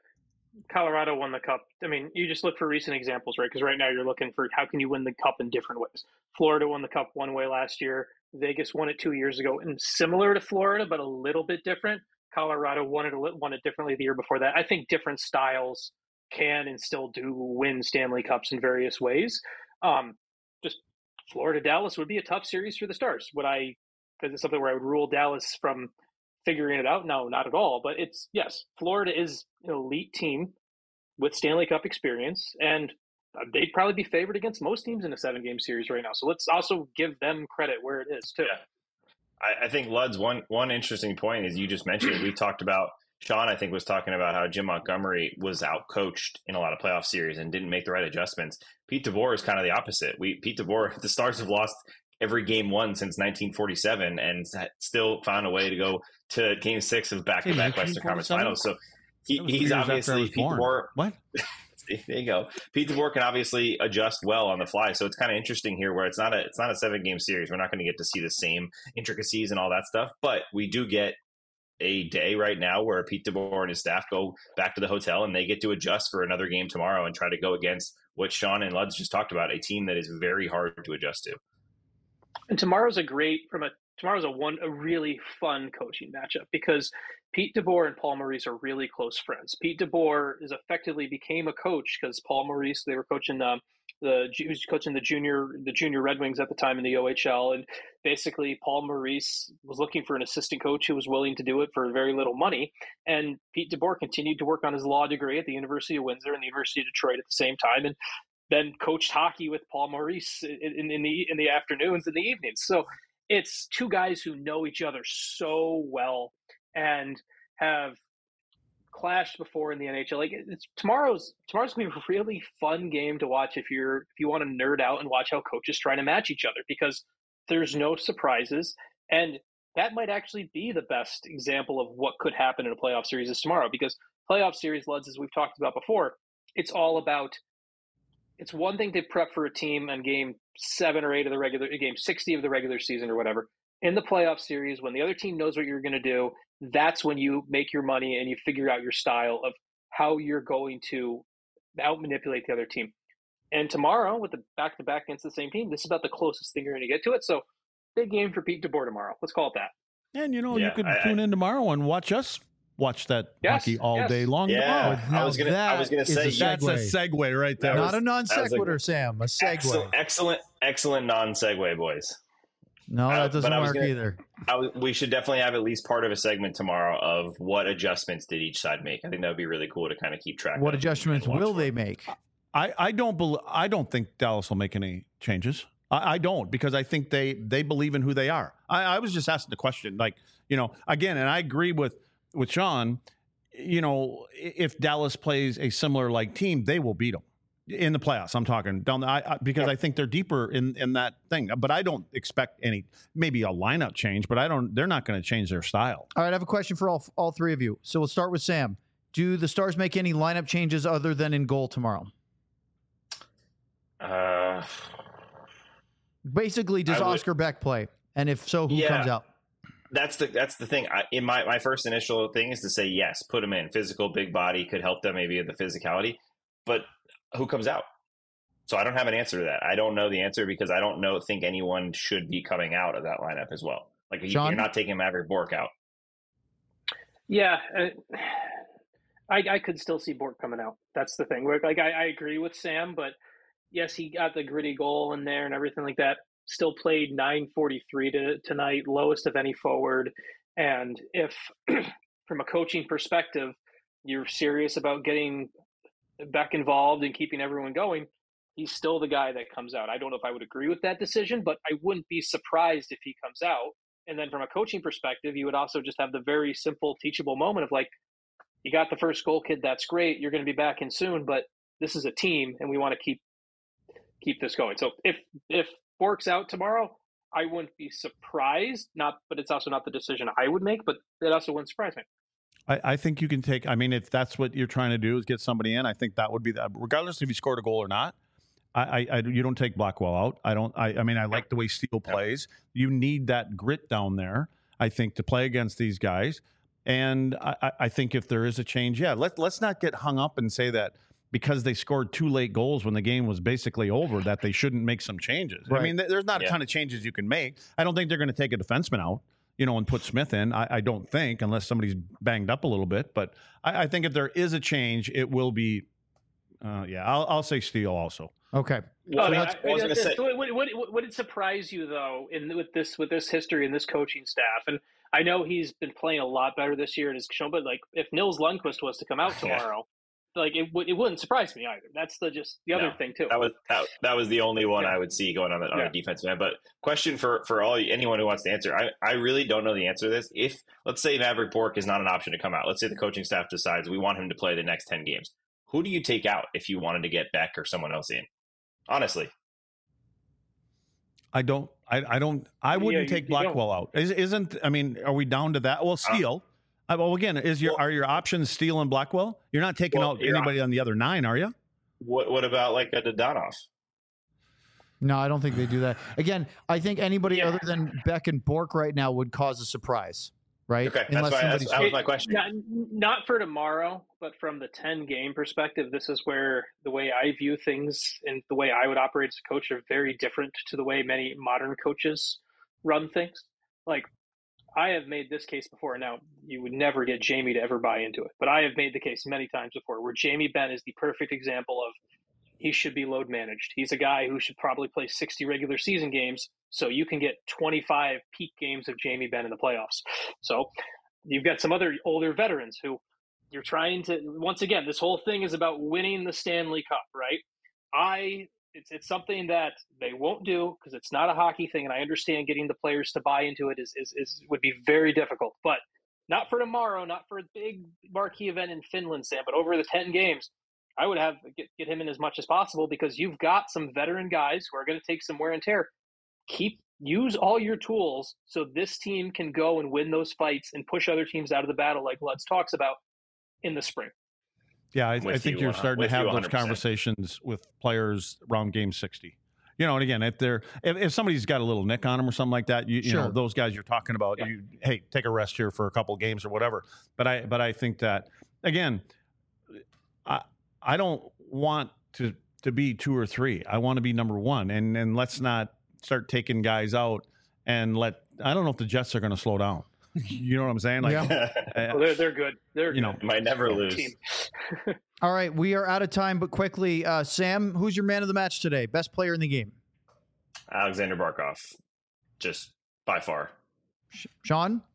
Colorado won the cup. I mean, you just look for recent examples, right? Because right now you're looking for how can you win the cup in different ways. Florida won the cup one way last year. Vegas won it two years ago, and similar to Florida, but a little bit different. Colorado won it won it differently the year before that. I think different styles can and still do win Stanley Cups in various ways. Um, just Florida Dallas would be a tough series for the Stars. Would I? Because it's something where I would rule Dallas from figuring it out. No, not at all. But it's yes, Florida is an elite team with Stanley Cup experience, and they'd probably be favored against most teams in a seven-game series right now. So let's also give them credit where it is too. Yeah. I, I think Lud's one one interesting point is you just mentioned. We talked about Sean. I think was talking about how Jim Montgomery was outcoached in a lot of playoff series and didn't make the right adjustments. Pete DeBoer is kind of the opposite. We Pete DeBoer, the Stars have lost every game won since nineteen forty-seven and still found a way to go to game six of back-to-back Western Conference Finals. So he, he's obviously Pete DeBoer. What? There you go. Pete DeBoer can obviously adjust well on the fly. So it's kind of interesting here where it's not a it's not a seven-game series. We're not going to get to see the same intricacies and all that stuff, but we do get a day right now where Pete DeBoer and his staff go back to the hotel and they get to adjust for another game tomorrow and try to go against what Sean and Luds just talked about, a team that is very hard to adjust to. And tomorrow's a great from a tomorrow's a one a really fun coaching matchup because Pete DeBoer and Paul Maurice are really close friends. Pete DeBoer is effectively became a coach because Paul Maurice, they were coaching the the he was coaching the junior the junior Red Wings at the time in the O H L, and basically Paul Maurice was looking for an assistant coach who was willing to do it for very little money. And Pete DeBoer continued to work on his law degree at the University of Windsor and the University of Detroit at the same time, and then coached hockey with Paul Maurice in, in, in the in the afternoons and the evenings. So it's two guys who know each other so well and have clashed before in the N H L. Like it's tomorrow's tomorrow's gonna be a really fun game to watch if you're if you want to nerd out and watch how coaches try to match each other, because there's no surprises, and that might actually be the best example of what could happen in a playoff series is tomorrow. Because playoff series, Luds, as we've talked about before, it's all about. It's one thing to prep for a team on game seven or eight of the regular game sixty of the regular season or whatever. In the playoff series, when the other team knows what you're going to do, that's when you make your money and you figure out your style of how you're going to out manipulate the other team. And tomorrow, with the back-to-back against the same team, this is about the closest thing you're going to get to it. So, big game for Pete DeBoer tomorrow. Let's call it that. And, you know, Yeah, you could I- tune I- in tomorrow and watch us watch that Yes, hockey all yes. day long Yeah, tomorrow. I Now was gonna. I was gonna that is say a yeah, That's a segue right there. That Not was- a non that was a- sequitur, Sam. A segue. excellent, excellent, excellent non-segue, boys. No, Uh, that doesn't but I was work gonna- either. I w- we should definitely have at least part of a segment tomorrow of what adjustments did each side make. I think that would be really cool to kind of keep track. What of adjustments and watch will for. they make? I, I don't bel I don't think Dallas will make any changes. I, I don't, because I think they they believe in who they are. I, I was just asking the question, like, you know, again, and I agree with with Sean. You know, if Dallas plays a similar like team, they will beat them in the playoffs. I'm talking down the, I, I, because I think they're deeper in in that thing. But I don't expect any, maybe a lineup change. But I don't. They're not going to change their style. All right, I have a question for all all three of you. So we'll start with Sam. Do the Stars make any lineup changes other than in goal tomorrow? Uh, Basically, does I would- Oscar Beck play? And if so, who Yeah. comes out? that's the that's the thing. I, in my my first initial thing is to say yes, put him in. Physical, big body could help them maybe with the physicality, but who comes out? So I don't have an answer to that. I don't know the answer because I don't know think anyone should be coming out of that lineup as well. Like you- Sean? you're not taking Maverick Bork out. Yeah, uh, I, I could still see Bork coming out. That's the thing. Like I, I agree with Sam, but yes, he got the gritty goal in there and everything like that. Still played nine forty-three to, tonight, lowest of any forward. And if, from a coaching perspective, you're serious about getting Beck involved and keeping everyone going, he's still the guy that comes out. I don't know if I would agree with that decision, but I wouldn't be surprised if he comes out. And then from a coaching perspective, you would also just have the very simple, teachable moment of like, you got the first goal, kid. That's great. You're going to be back in soon, but this is a team, and we want to keep keep this going. So if if Bork's out tomorrow, I wouldn't be surprised. Not, but it's also not the decision I would make. But it also wouldn't surprise me. I, I think you can take. I mean, if that's what you're trying to do is get somebody in, I think that would be that. Regardless if he scored a goal or not, I, I, I you don't take Blackwell out. I don't. I, I mean, I like the way Steele plays. You need that grit down there, I think, to play against these guys. And I, I think if there is a change, yeah, let let's not get hung up and say that because they scored two late goals when the game was basically over that they shouldn't make some changes. Right. I mean, th- there's not a Yeah. ton of changes you can make. I don't think they're going to take a defenseman out, you know, and put Smith in. I, I don't think, unless somebody's banged up a little bit. But I, I think if there is a change, it will be, uh, yeah, I'll, I'll say Steele also. Okay. Well, I mean, that's- I- I was I- gonna say- would, would, would, would it surprise you though, in with this with this history and this coaching staff? And I know he's been playing a lot better this year and has shown, but like if Nils Lundqvist was to come out Yeah. tomorrow, like it would it wouldn't surprise me either. That's the just the other No, thing too. That was that, that was the only one Yeah. I would see going on the, on Yeah. the defensive end. But question for for all anyone who wants to answer, I, I really don't know the answer to this. If let's say Maverick Bork is not an option to come out, let's say the coaching staff decides we want him to play the next ten games. Who do you take out if you wanted to get Beck or someone else in? Honestly, I don't. I, I don't. I wouldn't Yeah, you- take you don't. Blackwell out. Is, isn't? I mean, are we down to that? Well, Steele. Uh, well, again, is your Well- are your options Steele and Blackwell? You're not taking Well, out you're anybody on the other nine, are you? what what about like a Dodonov? No, I don't think they do that. Again, I think anybody Yeah. other than Beck and Bork right now would cause a surprise, right? Okay, that's why that's, that was my question. Not, not for tomorrow, but from the ten game perspective, this is where the way I view things and the way I would operate as a coach are very different to the way many modern coaches run things. Like, I have made this case before. Now, you would never get Jamie to ever buy into it, but I have made the case many times before where Jamie Benn is the perfect example of he should be load managed. He's a guy who should probably play sixty regular season games so you can get twenty-five peak games of Jamie Benn in the playoffs. So you've got some other older veterans who you're trying to, once again, this whole thing is about winning the Stanley Cup, right? I, it's, it's something that they won't do because it's not a hockey thing. And I understand getting the players to buy into it is, is, is would be very difficult, but not for tomorrow, not for a big marquee event in Finland, Sam, but over the ten games, I would have get, get him in as much as possible because you've got some veteran guys who are going to take some wear and tear. Keep use all your tools so this team can go and win those fights and push other teams out of the battle, like Lutz talks about in the spring. Yeah, I, I think you, you're starting to have those conversations with players around game sixty. You know, and again, if they're if, if somebody's got a little nick on them or something like that, you, you Sure. know, those guys you're talking about, Yeah. you hey, take a rest here for a couple games or whatever. But I but I think that again, I I don't want to to be two or three. I want to be number one, and and let's not start taking guys out and let. I don't know if the Jets are going to slow down. You know what I'm saying? Like, Yeah. Well, they're they're good. They're you know, good. Might never lose. Team. All right, we are out of time, but quickly, uh, Sam, who's your man of the match today? Best player in the game? Alexander Barkov, just by far. Sean?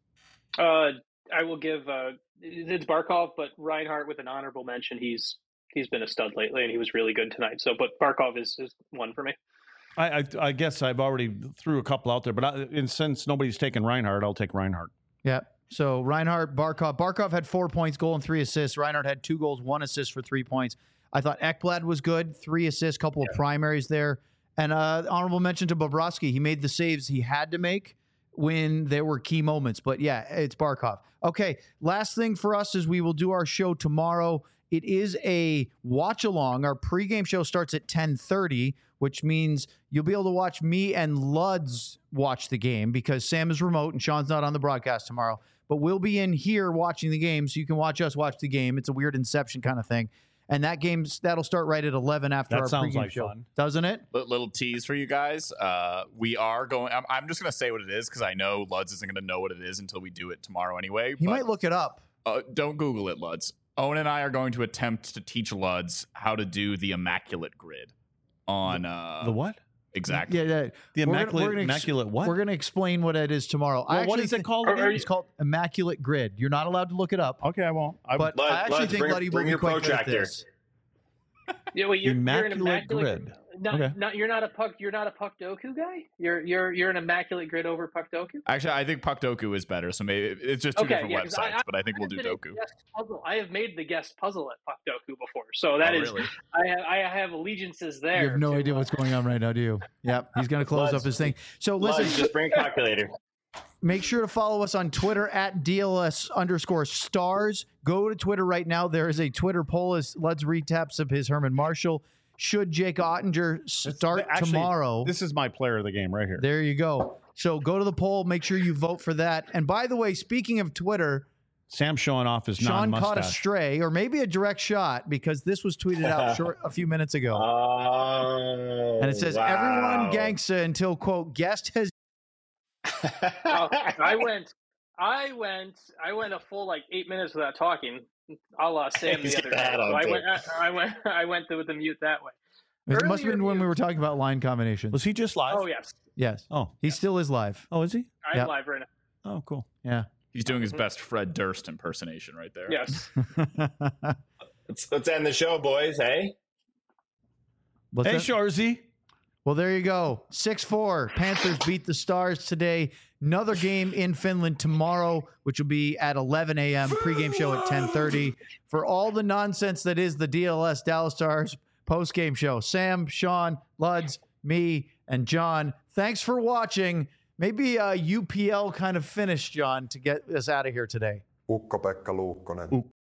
Uh, I will give uh, it's Barkov, but Reinhardt with an honorable mention. He's he's been a stud lately, and he was really good tonight. So, but Barkov is, is one for me. I, I I guess I've already threw a couple out there, but I, and since nobody's taken Reinhardt, I'll take Reinhardt. Yeah. So Reinhardt, Barkov. Barkov had four points, goal, and three assists. Reinhardt had two goals, one assist for three points. I thought Ekblad was good, three assists, couple Yeah. of primaries there. And uh, honorable mention to Bobrovsky. He made the saves he had to make when there were key moments. But yeah, it's Barkov. Okay, last thing for us is we will do our show tomorrow. It is a watch along. Our pregame show starts at ten thirty, which means you'll be able to watch me and Luds watch the game because Sam is remote and Sean's not on the broadcast tomorrow. But we'll be in here watching the game, so you can watch us watch the game. It's a weird Inception kind of thing. And that game's that'll start right at eleven after That our sounds pregame like show, fun. doesn't it? Li- Little tease for you guys. Uh, we are going. I'm, I'm just going to say what it is because I know Luds isn't going to know what it is until we do it tomorrow anyway. He but, might look it up. Uh, don't Google it, Luds. Owen and I are going to attempt to teach Luds how to do the immaculate grid on uh, The what? exactly. Yeah, yeah. The We're gonna- immaculate we're gonna ex- immaculate what? We're going to explain what it is tomorrow. I Well, what actually is it thi- called Are- again? are It's called Immaculate Grid. You're not allowed to look it up. Okay, I won't. I, But Lud- I actually Luds, think bring- Luddy will bring be your quite good at protractor. this. Yeah, wait, you're, Immaculate you're an immaculate grid. Not, Okay. not, you're not a puck. You're not a puck doku guy. You're you're you're an immaculate grid over puck doku. Actually, I think Puckdoku is better. So maybe it's just two Okay, different yeah, 'cause websites, I- but I think I we'll have do been a Doku. guest puzzle. I have made the guest puzzle at puck doku before, so that Oh, is really? I have I have allegiances there. You have no to, idea uh, what's going on right now, do you? Yep. He's going to close Luds. up his thing. So Luds, listen, just bring a calculator. make sure to follow us on Twitter at D L S underscore stars. Go to Twitter right now. There is a Twitter poll as Luds retaps of his Herman Marshall. Should Jake Ottinger start Actually, tomorrow? This is my player of the game right here. There you go. So go to the poll. Make sure you vote for that. And by the way, speaking of Twitter, Sam showing off his Sean caught a non-mustache. stray or maybe a direct shot because this was tweeted out short a few minutes ago. Oh, and it says, wow. everyone gangsta until, quote, guest has. Oh, I went, I went, I went a full like eight minutes without talking. A la Sam the He's other got day. that So on, I too. went, I, I went, I went with the mute that way. It must have Earlier been when you- we were talking about line combinations. Was he just live? Oh yes, Yes. Oh, He still is live. oh, is he? I'm Yep. live right now. Oh, cool. Yeah. He's doing his best Fred Durst impersonation right there. Yes. let's, let's end the show, boys. Hey, What's Hey, that? Shorzy. Well, there you go. six four. Panthers beat the Stars today. Another game in Finland tomorrow, which will be at eleven a.m. Pregame show at ten thirty. For all the nonsense that is the D L S Dallas Stars postgame show, Sam, Sean, Luds, me, and John, thanks for watching. Maybe a U P L kind of finish, John, to get us out of here today. Ukko-Pekka Luukkonen.